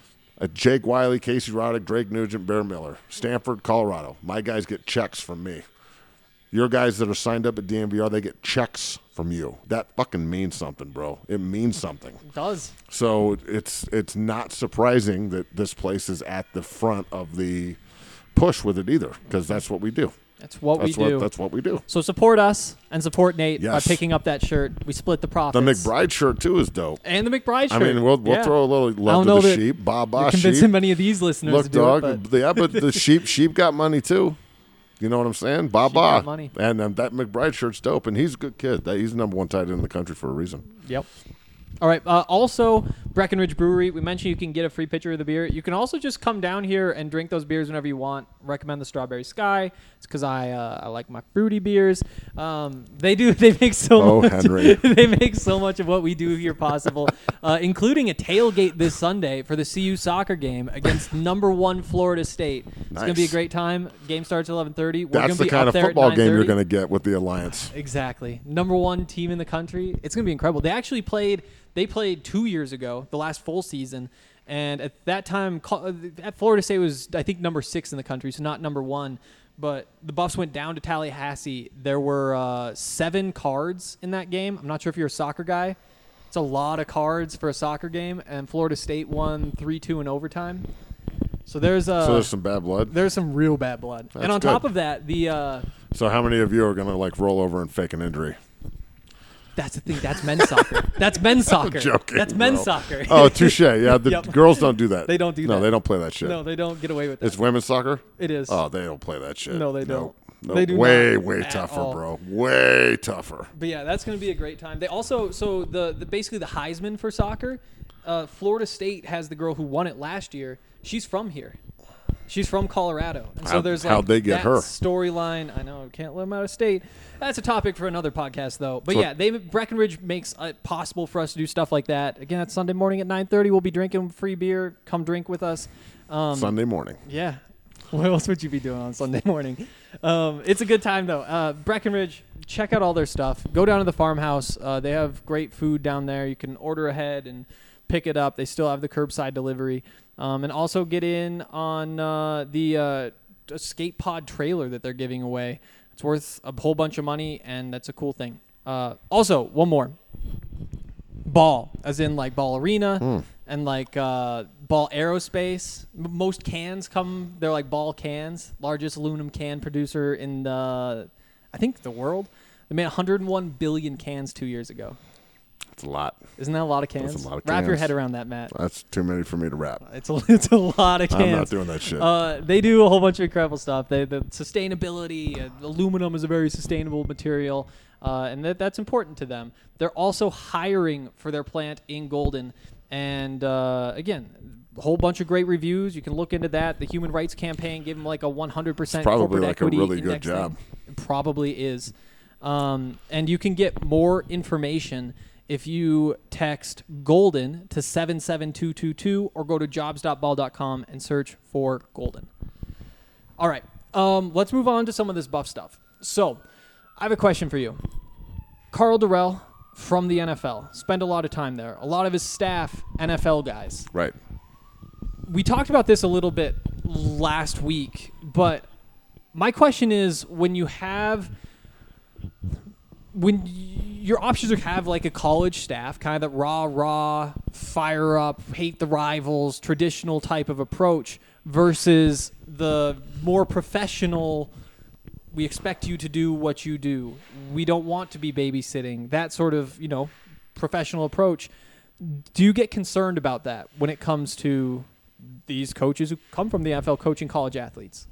Jake Wiley, Casey Roddick, Drake Nugent, Bear Miller, Stanford, Colorado. My guys get checks from me. Your guys that are signed up at DNVR, they get checks from you. That fucking means something, bro. It means something. It does. So it's not surprising that this place is at the front of the push with it either, because that's what we do. That's what we do. That's what we do. So support us and support Nate by Yes. picking up that shirt. We split the The profits. McBride shirt, too, is dope. And the McBride shirt. I mean, we'll throw a little love to the sheep. Ba-ba sheep. Convincing many of these listeners Look, to do dog. it, but But the sheep got money, too. You know what I'm saying? Ba-ba. got money. And that McBride shirt's dope, and he's a good kid. He's the number 1 tight end in the country for a reason. Yep. All right. Also, Breckenridge Brewery. We mentioned you can get a free pitcher of the beer. You can also just come down here and drink those beers whenever you want. Recommend the Strawberry Sky. It's because I like my fruity beers. They make so much. Henry. They make so much of what we do here possible, including a tailgate this Sunday for the CU soccer game against number 1 Florida State. It's gonna be a great time. Game starts at 11:30. We're That's gonna the be kind up of there at football game you're 9:30. going to get with the Alliance. Exactly. Number 1 team in the country. It's going to be incredible. They played 2 years ago, the last full season. And at that time, at Florida State was, I think, number 6 in the country, so not number 1. But the Buffs went down to Tallahassee. There were 7 cards in that game. I'm not sure if you're a soccer guy. It's a lot of cards for a soccer game. And Florida State won 3-2 in overtime. So there's some bad blood. There's some real bad blood. That's and on good. top of that, So how many of you are going to roll over and fake an injury? that's the thing. That's men's soccer. That's men's soccer. Joking, That's men's bro. soccer. Oh, touche. Yeah, the Yep. girls don't do that. They don't do No, that. they don't play that shit. No, they don't get away with that. It's women's soccer? It is. Oh, they don't play that shit. No, they don't. No. They do way, not way at tougher, all. bro. Way tougher. But yeah, that's going to be a great time. They also, the basically the Heisman for soccer, Florida State has the girl who won it last year. She's from here. She's from Colorado. And so there's how'd they get that her? storyline. I know, can't let them out of state. That's a topic for another podcast, though. But So- yeah, Breckenridge makes it possible for us to do stuff like that. Again, it's Sunday morning at 9:30. We'll be drinking free beer. Come drink with us. Sunday morning. Yeah. What else would you be doing on Sunday morning? It's a good time, though. Breckenridge, check out all their stuff. Go down to the farmhouse. They have great food down there. You can order ahead and pick it up. They still have the curbside delivery. And also get in on the escape pod trailer that they're giving away. It's worth a whole bunch of money, and that's a cool thing. Also, one more. Ball, as in like Ball Arena and like Ball Aerospace. Most cans come, they're like Ball cans, largest aluminum can producer in I think the world. They made 101 billion cans 2 years ago. It's a lot. Isn't that a lot of cans? That's a lot of Wrap your cans. head around that, Matt. That's too many for me to wrap. It's a lot of cans. I'm not doing that shit. They do a whole bunch of incredible stuff. The sustainability, aluminum is a very sustainable material, and that's important to them. They're also hiring for their plant in Golden, and again, a whole bunch of great reviews. You can look into that. The Human Rights Campaign gave them like a 100% probably corporate like a equity really good index thing. job. It probably is. And you can get more information if you text Golden to 77222 or go to jobs.ball.com and search for Golden. All right. Let's move on to some of this Buff stuff. So, I have a question for you. Carl Durrell from the NFL spent a lot of time there. A lot of his staff, NFL guys. Right. We talked about this a little bit last week, but my question is when your options are have like a college staff, kind of that raw, fire up, hate the rivals, traditional type of approach versus the more professional, we expect you to do what you do. We don't want to be babysitting, that sort of, professional approach. Do you get concerned about that when it comes to these coaches who come from the NFL coaching college athletes?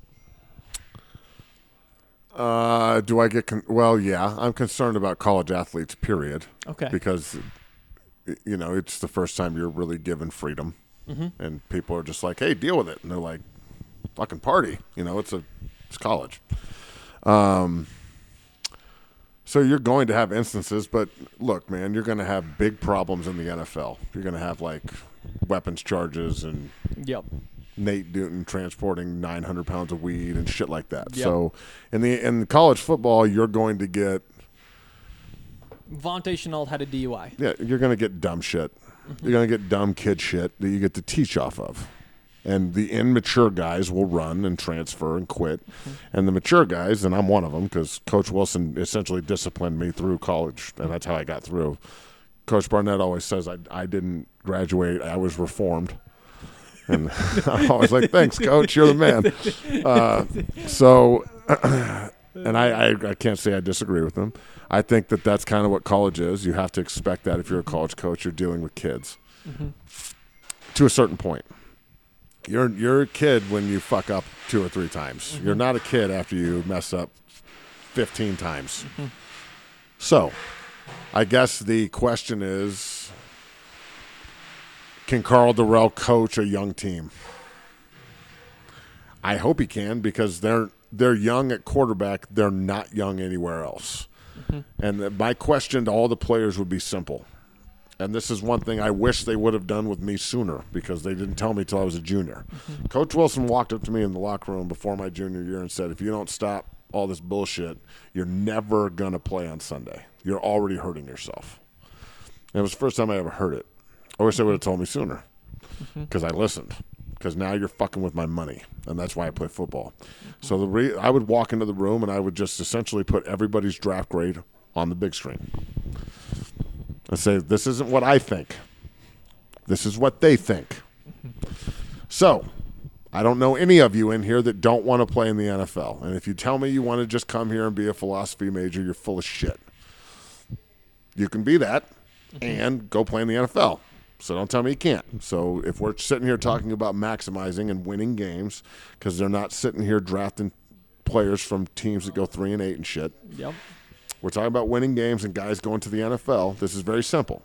Do I get well, yeah. I'm concerned about college athletes, period. Okay. Because, it's the first time you're really given freedom. Mm-hmm. And people are just like, hey, deal with it. And they're like, fucking party. It's college. So you're going to have instances, but look, man, you're going to have big problems in the NFL. You're going to have, like, weapons charges and Yep. Nate Newton transporting 900 pounds of weed and shit like that. Yep. So in college football, you're going to get Vontae Chenault had a DUI. Yeah, you're going to get dumb shit. You're going to get dumb kid shit that you get to teach off of. And the immature guys will run and transfer and quit. And the mature guys, and I'm one of them because Coach Wilson essentially disciplined me through college, and that's how I got through. Coach Barnett always says I didn't graduate. I was reformed. And I'm always like, thanks, Coach. You're the man. And I can't say I disagree with him. I think that that's kind of what college is. You have to expect that if you're a college coach, you're dealing with kids to a certain point. You're a kid when you fuck up 2 or 3 times. You're not a kid after you mess up 15 times. So I guess the question is, can Carl Durrell coach a young team? I hope he can because they're young at quarterback. They're not young anywhere else. And my question to all the players would be simple. And this is one thing I wish they would have done with me sooner because they didn't tell me till I was a junior. Coach Wilson walked up to me in the locker room before my junior year and said, if you don't stop all this bullshit, you're never going to play on Sunday. You're already hurting yourself. And it was the first time I ever heard it. I wish they would have told me sooner because I listened. Because now you're fucking with my money, and that's why I play football. So I would walk into the room, and I would just essentially put everybody's draft grade on the big screen. And say, this isn't what I think. This is what they think. So I don't know any of you in here that don't want to play in the NFL. And if you tell me you want to just come here and be a philosophy major, you're full of shit. You can be that and go play in the NFL. So don't tell me you can't. So if we're sitting here talking about maximizing and winning games, because they're not sitting here drafting players from teams that go 3-8 and shit. Yep. We're talking about winning games and guys going to the NFL. This is very simple.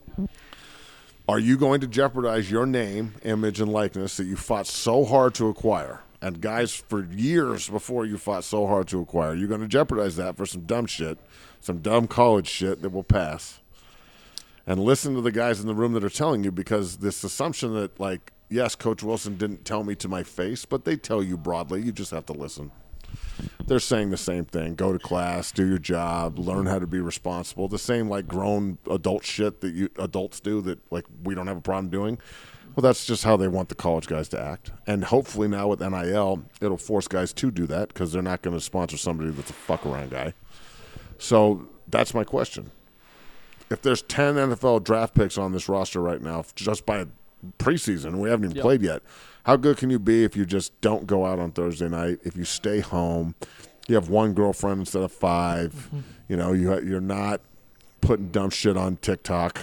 Are you going to jeopardize your name, image, and likeness that you fought so hard to acquire? And guys, for years before you fought so hard to acquire, you're going to jeopardize that for some dumb shit, some dumb college shit that will pass. And listen to the guys in the room that are telling you, because this assumption that, like, yes, Coach Wilson didn't tell me to my face, but they tell you broadly. You just have to listen. They're saying the same thing. Go to class, do your job, learn how to be responsible. The same, like, grown adult shit that you adults do that, like, we don't have a problem doing. Well, that's just how they want the college guys to act. And hopefully now with NIL, it'll force guys to do that because they're not going to sponsor somebody that's a fuck-around guy. So that's my question. If there's 10 NFL draft picks on this roster right now, just by preseason, we haven't even played yet, how good can you be if you just don't go out on Thursday night, if you stay home, you have one girlfriend instead of 5, you know, you're not putting dumb shit on TikTok,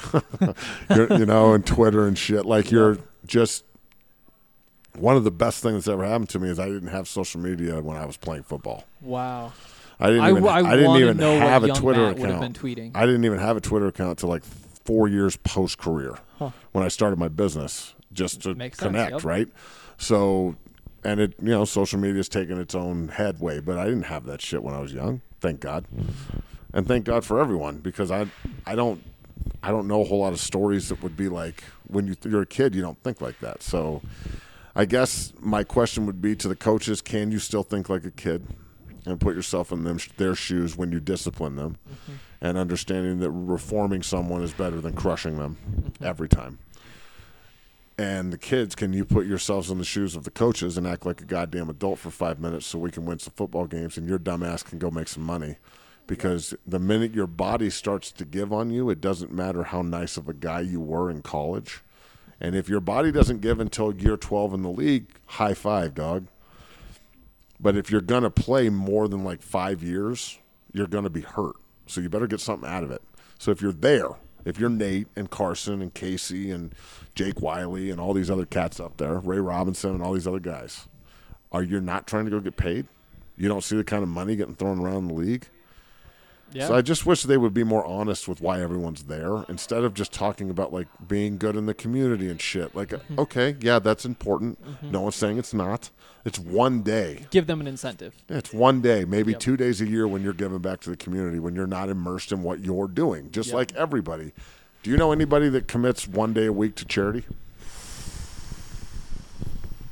and Twitter and shit. Like, you're just – one of the best things that's ever happened to me is I didn't have social media when I was playing football. Wow. I didn't even have a Twitter Matt would have been account. tweeting. I didn't even have a Twitter account until like 4 years post-career when I started my business, just to Makes connect, sense, yep. right? So, and it, social media's taken its own headway, but I didn't have that shit when I was young. Thank God, and thank God for everyone, because I don't know a whole lot of stories that would be like when you're a kid, you don't think like that. So, I guess my question would be to the coaches: can you still think like a kid? And put yourself in their shoes when you discipline them, and understanding that reforming someone is better than crushing them every time. And the kids, can you put yourselves in the shoes of the coaches and act like a goddamn adult for 5 minutes so we can win some football games and your dumb ass can go make some money? Because the minute your body starts to give on you, it doesn't matter how nice of a guy you were in college. And if your body doesn't give until year 12 in the league, high five, dog. But if you're going to play more than like 5 years, you're going to be hurt. So you better get something out of it. So if you're there, if you're Nate and Carson and Casey and Jake Wiley and all these other cats up there, Ray Robinson and all these other guys, are you not trying to go get paid? You don't see the kind of money getting thrown around in the league? Yeah. So I just wish they would be more honest with why everyone's there instead of just talking about, like, being good in the community and shit. Like, okay, yeah, that's important. No one's saying it's not. It's one day. Give them an incentive. Yeah, it's one day, maybe 2 days a year when you're giving back to the community, when you're not immersed in what you're doing, just like everybody. Do you know anybody that commits 1 day a week to charity?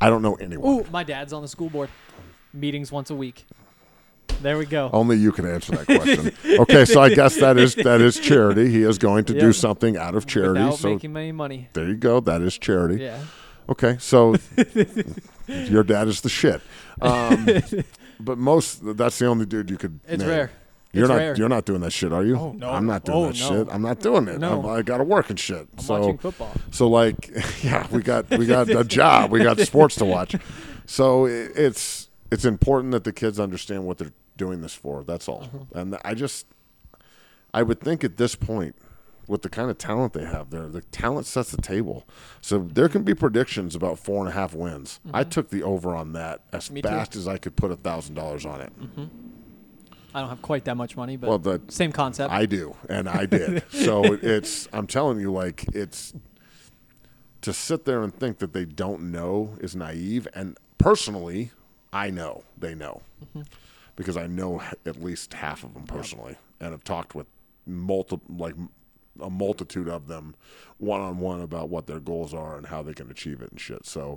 I don't know anyone. Ooh, my dad's on the school board. Meetings once a week. There we go. Only you can answer that question. Okay, so I guess that is charity. He is going to do something out of charity. Without So making any money. there you go. That is charity. Yeah. Okay, so your dad is the shit. But that's the only dude you could It's name. rare. You're It's not rare. You're not doing that shit, are you? Oh, no. I'm not doing Oh, that no. shit. I'm not doing it. No. I got to work and shit. I'm so watching football. So like, yeah, we got a job. We got sports to watch. So it's important that the kids understand what they're doing this for. That's all. And I would think at this point, with the kind of talent they have there, the talent sets the table. So there can be predictions about 4.5 wins. I took the over on that as Me too. fast as I could put $1,000 on it. I don't have quite that much money, but Well, same concept. I do, and I did. So I'm telling you, like, it's to sit there and think that they don't know is naive. And personally, I know they know because I know at least half of them personally, and have talked with a multitude of them one-on-one about what their goals are and how they can achieve it and shit. So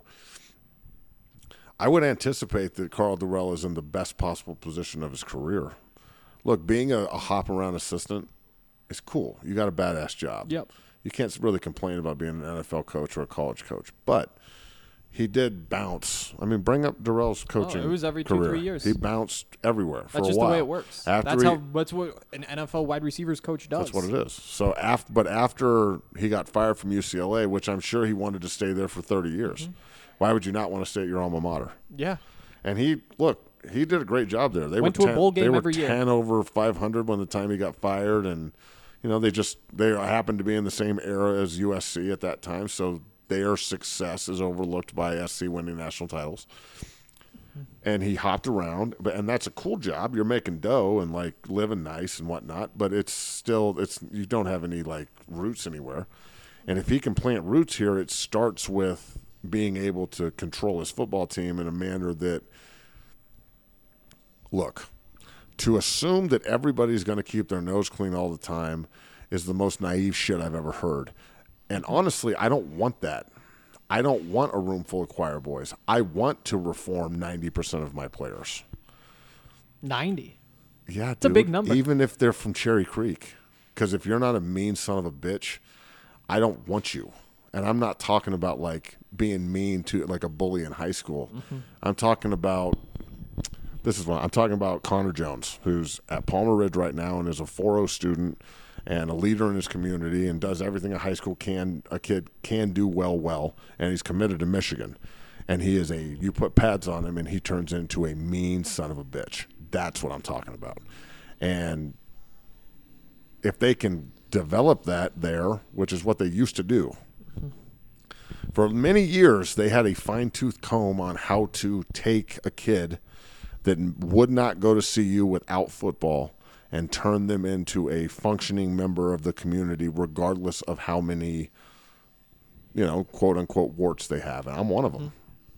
I would anticipate that Karl Dorrell is in the best possible position of his career. Look, being a hop-around assistant is cool. You got a badass job. Yep. You can't really complain about being an NFL coach or a college coach. But he did bounce. I mean, bring up Dorrell's coaching it was every career. 2-3 years. He bounced everywhere for That's a just while. the way it works. That's what an NFL wide receivers coach does. That's what it is. So after he got fired from UCLA, which I'm sure he wanted to stay there for 30 years, why would you not want to stay at your alma mater? Yeah. And he did a great job there. They Went were to a bowl game they were every year. 10 over 500 when the time he got fired, and they happened to be in the same era as USC at that time, so their success is overlooked by SC winning national titles. And he hopped around, and that's a cool job. You're making dough and like living nice and whatnot, but it's you don't have any like roots anywhere. And if he can plant roots here, it starts with being able to control his football team in a manner that, look, to assume that everybody's going to keep their nose clean all the time is the most naive shit I've ever heard. And honestly, I don't want that. I don't want a room full of choir boys. I want to reform 90% of my players. 90. Yeah, It's a big number. Even if they're from Cherry Creek. Because if you're not a mean son of a bitch, I don't want you. And I'm not talking about like being mean to like a bully in high school. I'm talking about I'm talking about Connor Jones, who's at Palmer Ridge right now and is a 4.0 student and a leader in his community and does everything a high school kid can do well, and he's committed to Michigan. And he is you put pads on him and he turns into a mean son of a bitch. That's what I'm talking about. And if they can develop that there, which is what they used to do, for many years they had a fine-tooth comb on how to take a kid that would not go to CU without football and turn them into a functioning member of the community regardless of how many, quote-unquote warts they have. And I'm one of them.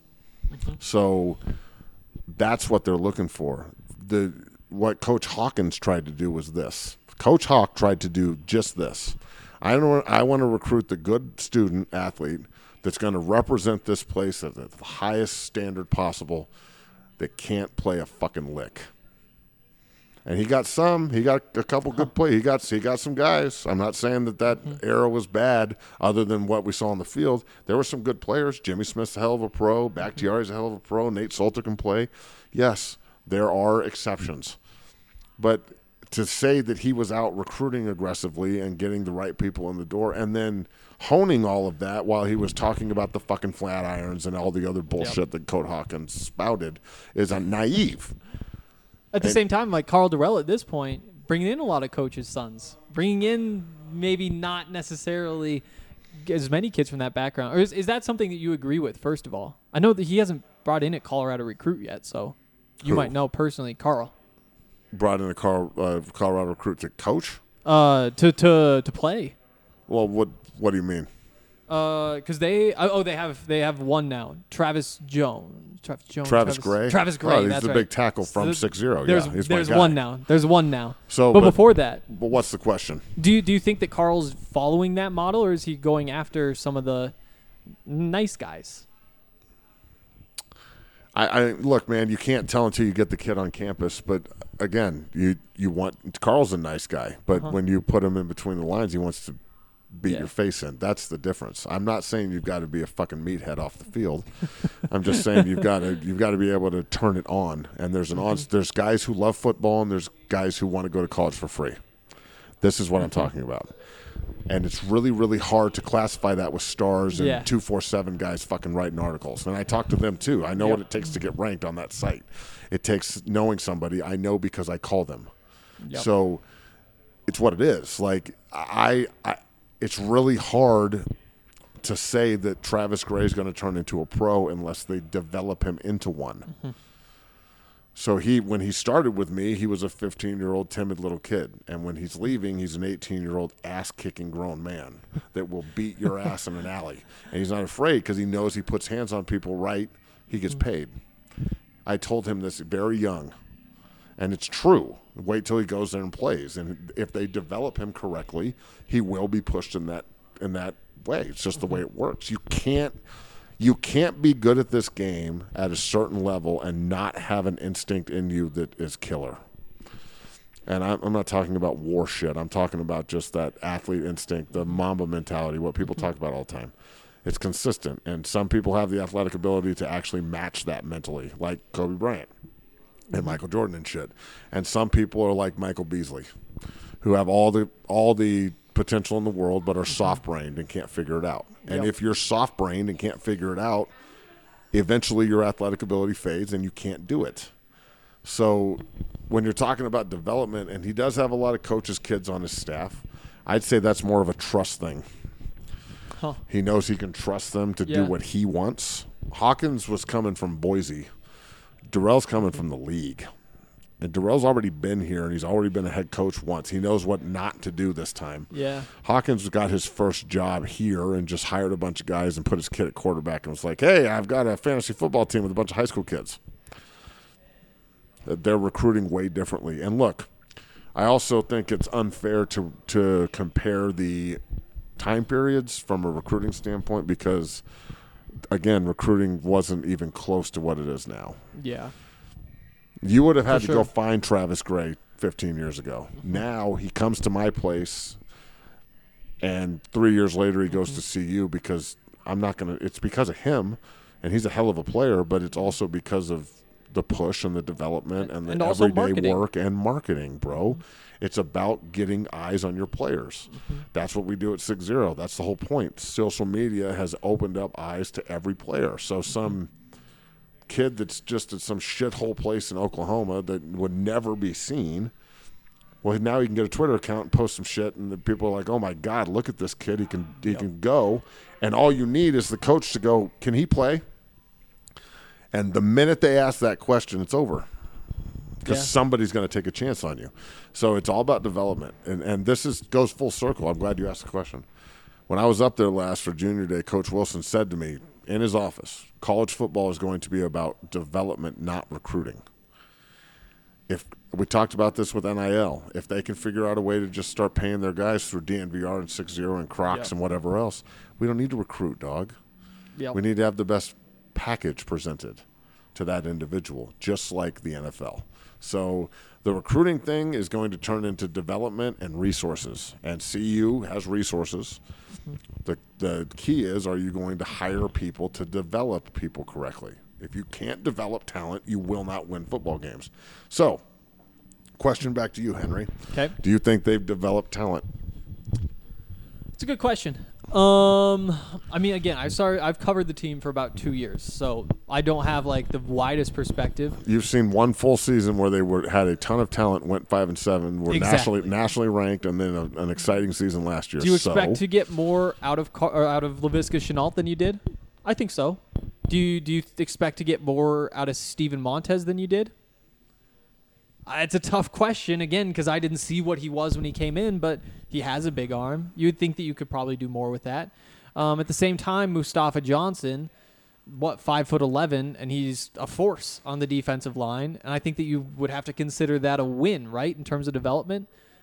So that's what they're looking for. What Coach Hawkins tried to do was this. Coach Hawk tried to do just this. I want to recruit the good student athlete that's going to represent this place at the highest standard possible that can't play a fucking lick. And he got a couple good plays. He got some guys. I'm not saying that era was bad other than what we saw on the field. There were some good players. Jimmy Smith's a hell of a pro. Bakhtiari's a hell of a pro. Nate Solter can play. Yes, there are exceptions. But to say that he was out recruiting aggressively and getting the right people in the door and then honing all of that while he was talking about the fucking flat irons and all the other bullshit that Coach Hawkins spouted is naive. At the same time, like Karl Dorrell at this point, bringing in a lot of coaches' sons, bringing in maybe not necessarily as many kids from that background. Or is that something that you agree with, first of all? I know that he hasn't brought in a Colorado recruit yet, so you might know personally, Karl. Brought in a Colorado recruit to coach? To play. Well, what do you mean? Because they have one now. Travis Gray. Travis Gray. Oh, he's that's the right. big tackle from 6-0. There's one now. There's one now. So, but before that, but what's the question? do you think that Karl's following that model, or is he going after some of the nice guys? I look, man, you can't tell until you get the kid on campus. But again, you want Carl's a nice guy, but when you put him in between the lines, he wants to beat your face in. That's the difference. I'm not saying you've got to be a fucking meathead off the field. I'm just saying you've got to be able to turn it on. And there's there's guys who love football and there's guys who want to go to college for free. This is what I'm talking about. And it's really, really hard to classify that with stars and 247 guys fucking writing articles. And I talk to them too. I know what it takes to get ranked on that site. It takes knowing somebody. I know because I call them. So it's what it is. Like it's really hard to say that Travis Gray is going to turn into a pro unless they develop him into one. So when he started with me, he was a 15-year-old timid little kid. And when he's leaving, he's an 18-year-old ass-kicking grown man that will beat your ass in an alley. And he's not afraid because he knows he puts hands on people right, he gets paid. I told him this very young. And it's true. Wait till he goes there and plays. And if they develop him correctly, he will be pushed in that way. It's just the way it works. You can't be good at this game at a certain level and not have an instinct in you that is killer. And I'm not talking about war shit. I'm talking about just that athlete instinct, the Mamba mentality, what people talk about all the time. It's consistent. And some people have the athletic ability to actually match that mentally, like Kobe Bryant and Michael Jordan and shit. And some people are like Michael Beasley, who have all the potential in the world but are soft-brained and can't figure it out. And if you're soft-brained and can't figure it out, eventually your athletic ability fades and you can't do it. So when you're talking about development, and he does have a lot of coaches' kids on his staff, I'd say that's more of a trust thing. He knows he can trust them to do what he wants. Hawkins was coming from Boise. Darrell's coming from the league. And Darrell's already been here, and he's already been a head coach once. He knows what not to do this time. Yeah. Hawkins got his first job here and just hired a bunch of guys and put his kid at quarterback and was like, hey, I've got a fantasy football team with a bunch of high school kids. They're recruiting way differently. And look, I also think it's unfair to compare the time periods from a recruiting standpoint because, again, recruiting wasn't even close to what it is now. Yeah. You would have had to go find Travis Gray 15 years ago. Now he comes to my place, and 3 years later he goes to CU because I'm not going to – it's because of him, and he's a hell of a player, but it's also because of the push and the development and the everyday work and marketing, bro. It's about getting eyes on your players. That's what we do at 6-0. That's the whole point. Social media has opened up eyes to every player. So some – kid that's just at some shithole place in Oklahoma that would never be seen, well, now he can get a Twitter account and post some shit, and the people are like, oh my God, look at this kid, he can go. And all you need is the coach to go, can he play? And the minute they ask that question, it's over because somebody's going to take a chance on you. So it's all about development, and this goes full circle. I'm glad you asked the question. When I was up there last for junior day, Coach Wilson said to me in his office, college football is going to be about development, not recruiting. If we talked about this with NIL, if they can figure out a way to just start paying their guys through DNVR and 6-0 and Crocs and whatever else, we don't need to recruit, dog. We need to have the best package presented to that individual, just like the NFL. So the recruiting thing is going to turn into development and resources, and CU has resources. The key is, are you going to hire people to develop people correctly? If you can't develop talent, you will not win football games. So, question back to you, Henry. Okay. Do you think they've developed talent? It's a good question. I mean, again, I've covered the team for about 2 years, so I don't have like the widest perspective. You've seen one full season where they had a ton of talent, went 5-7, were nationally ranked, and then an exciting season last year. Do you expect to get more out of Laviska Shenault than you did? I think so. Do you expect to get more out of Steven Montez than you did? It's a tough question, again, because I didn't see what he was when he came in, but he has a big arm. You'd think that you could probably do more with that. At the same time, Mustafa Johnson, 5'11", and he's a force on the defensive line, and I think that you would have to consider that a win, right, in terms of development.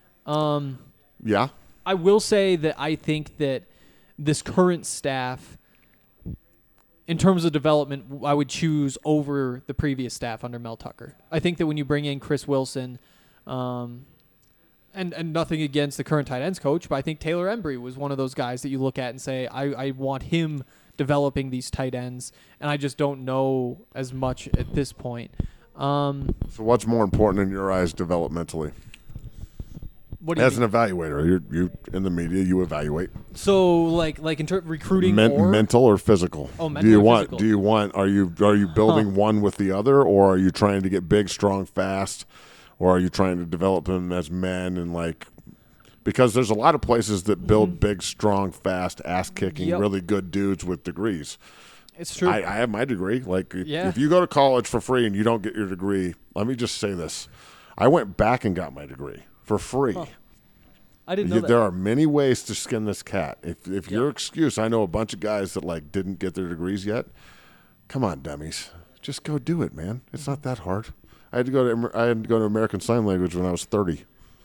Yeah. I will say that I think that this current staff in terms of development, I would choose over the previous staff under Mel Tucker. I think that when you bring in Chris Wilson, and nothing against the current tight ends coach, but I think Taylor Embry was one of those guys that you look at and say, I want him developing these tight ends, and I just don't know as much at this point. So what's more important in your eyes developmentally? What do you As an evaluator, you in the media, you evaluate. So like in recruiting or mental or physical? Oh, mental do you or want? physical. Do you want? Are you building one with the other, or are you trying to get big, strong, fast, or are you trying to develop them as men and like? Because there's a lot of places that build big, strong, fast, ass-kicking, Yep. really good dudes with degrees. It's true. I have my degree. Like Yeah. if you go to college for free and you don't get your degree, let me just say this: I went back and got my degree for free. I didn't know that. There are many ways to skin this cat. If your excuse, I know a bunch of guys that like didn't get their degrees yet. Come on, dummies, just go do it, man. It's not that hard. I had to go to American Sign Language when I was 30.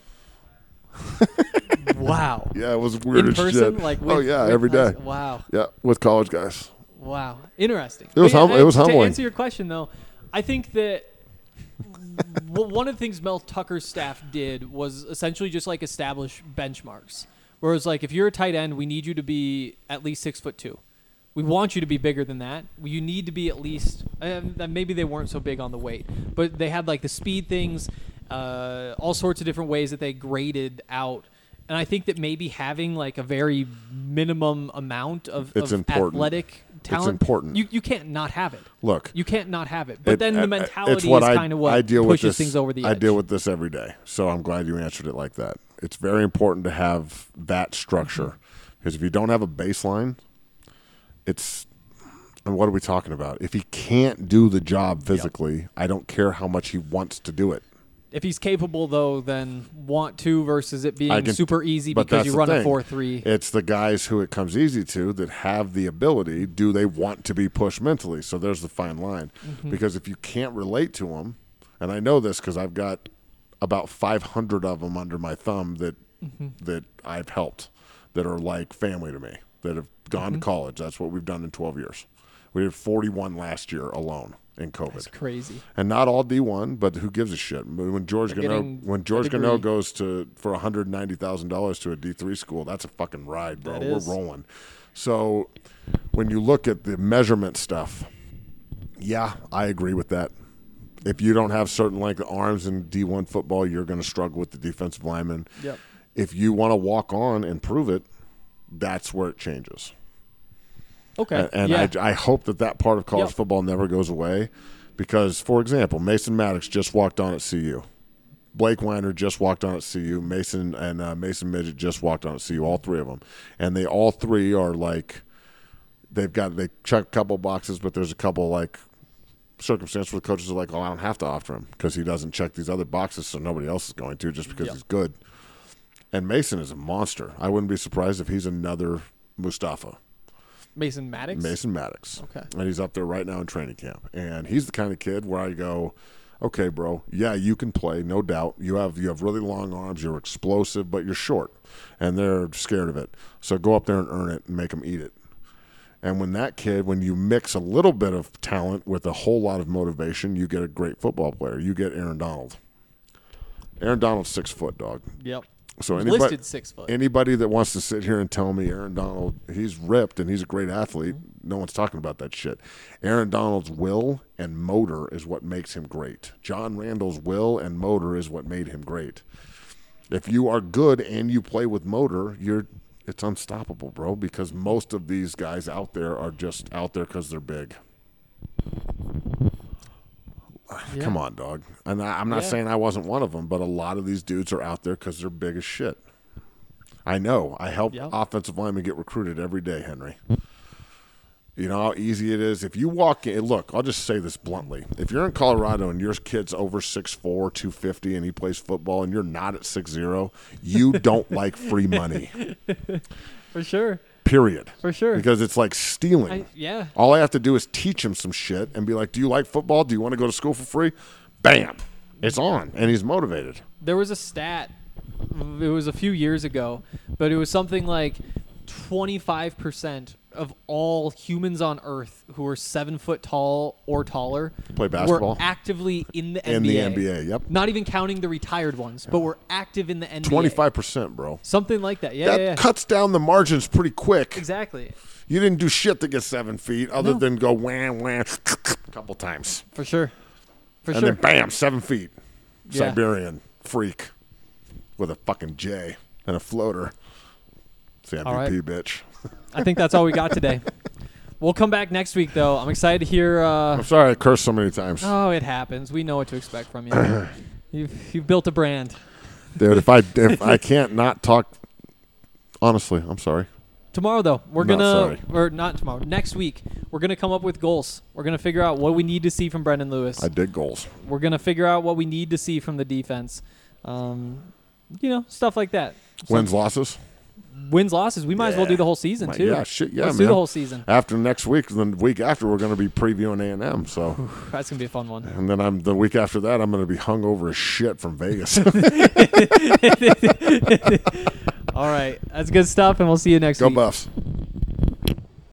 Wow. Yeah, it was weird In as person, shit. like every day. Wow. Yeah, with college guys. Wow. Interesting. It was But it was To humbling. answer your question, though, I think that one of the things Mel Tucker's staff did was essentially just like establish benchmarks. Whereas, like, if you're a tight end, we need you to be at least 6'2". We want you to be bigger than that. You need to be at least. Maybe they weren't so big on the weight, but they had like the speed things, all sorts of different ways that they graded out. And I think that maybe having like a very minimum amount of important. athletic talent, It's important. You can't not have it. Look, You can't not have it. But then the it's mentality what is I- kind of what I deal pushes with this, things over the edge. I deal with this every day, so I'm glad you answered it like that. It's very important to have that structure because if you don't have a baseline, and what are we talking about? If he can't do the job physically, I don't care how much he wants to do it. If he's capable, though, then want to versus it being super easy but because that's you the run a thing. 4-3. It's the guys who it comes easy to that have the ability. Do they want to be pushed mentally? So there's the fine line. Because if you can't relate to them, and I know this because I've got about 500 of them under my thumb that I've helped that are like family to me, that have gone to college. That's what we've done in 12 years. We did 41 last year alone in COVID. That's crazy. And not all D1, but who gives a shit? When George Gano goes for $190,000 to a D3 school, that's a fucking ride, bro. We're rolling. So when you look at the measurement stuff, yeah, I agree with that. If you don't have certain length of arms in D1 football, you're going to struggle with the defensive lineman. Yep. If you want to walk on and prove it, that's where it changes. Okay. And yeah. I hope that part of college football never goes away because, for example, Mason Maddox just walked on at CU. Blake Weiner just walked on at CU. Mason Midget just walked on at CU, all three of them. And they all three are like they check a couple boxes, but there's a couple like circumstances where the coaches are like, I don't have to offer him because he doesn't check these other boxes, so nobody else is going to just because he's good. And Mason is a monster. I wouldn't be surprised if he's another Mustafa. Mason Maddox? Mason Maddox. Okay. And he's up there right now in training camp. And he's the kind of kid where I go, okay, bro, yeah, you can play, no doubt. You have really long arms. You're explosive, but you're short. And they're scared of it. So go up there and earn it and make them eat it. And when you mix a little bit of talent with a whole lot of motivation, you get a great football player. You get Aaron Donald. Aaron Donald's 6 foot, dog. Yep. So He's anybody, listed 6 foot. Anybody that wants to sit here and tell me Aaron Donald, he's ripped and he's a great athlete, no one's talking about that shit. Aaron Donald's will and motor is what makes him great. John Randall's will and motor is what made him great. If you are good and you play with motor, it's unstoppable, bro, because most of these guys out there are just out there because they're big. Yeah. Come on, dog. And I'm not saying I wasn't one of them, but a lot of these dudes are out there because they're big as shit. I know. I help offensive linemen get recruited every day, Henry. You know how easy it is? If you walk in, look, I'll just say this bluntly. If you're in Colorado and your kid's over 6'4", 250, and he plays football and you're not at 6'0", you don't like free money. For sure. Period. For sure. Because it's like stealing. Yeah. All I have to do is teach him some shit and be like, do you like football? Do you want to go to school for free? Bam. It's on. And he's motivated. There was a stat, it was a few years ago, but it was something like 25% of all humans on Earth who are 7 foot tall or taller Play basketball? were actively in the NBA. In the NBA, yep. Not even counting the retired ones, but were active in the NBA. 25%, bro. Something like that. Yeah, That yeah. cuts down the margins pretty quick. Exactly. You didn't do shit to get 7 feet other than go wham, wham, a couple times. For sure. For And sure. then bam, 7 feet. Yeah. Siberian freak with a fucking J and a floater. It's the MVP, All right. bitch. I think that's all we got today. We'll come back next week, though. I'm excited to hear. I'm sorry I cursed so many times. Oh, it happens. We know what to expect from you. You've built a brand. Dude, if I can't not talk, honestly, I'm sorry. Tomorrow, though, we're Not gonna, sorry. or not tomorrow, next week, we're gonna come up with goals. We're gonna figure out what we need to see from Brendan Lewis. I dig goals. We're gonna figure out what we need to see from the defense. Stuff like that. Wins, losses? Wins, losses. We might as well do the whole season too. Yeah, shit, yeah, Let's man. do the whole season. After next week, then the week after, we're going to be previewing A&M. So, That's gonna be a fun one. and then the week after that, I'm going to be hungover as shit from Vegas. All right, that's good stuff, and we'll see you next Go week. Buffs.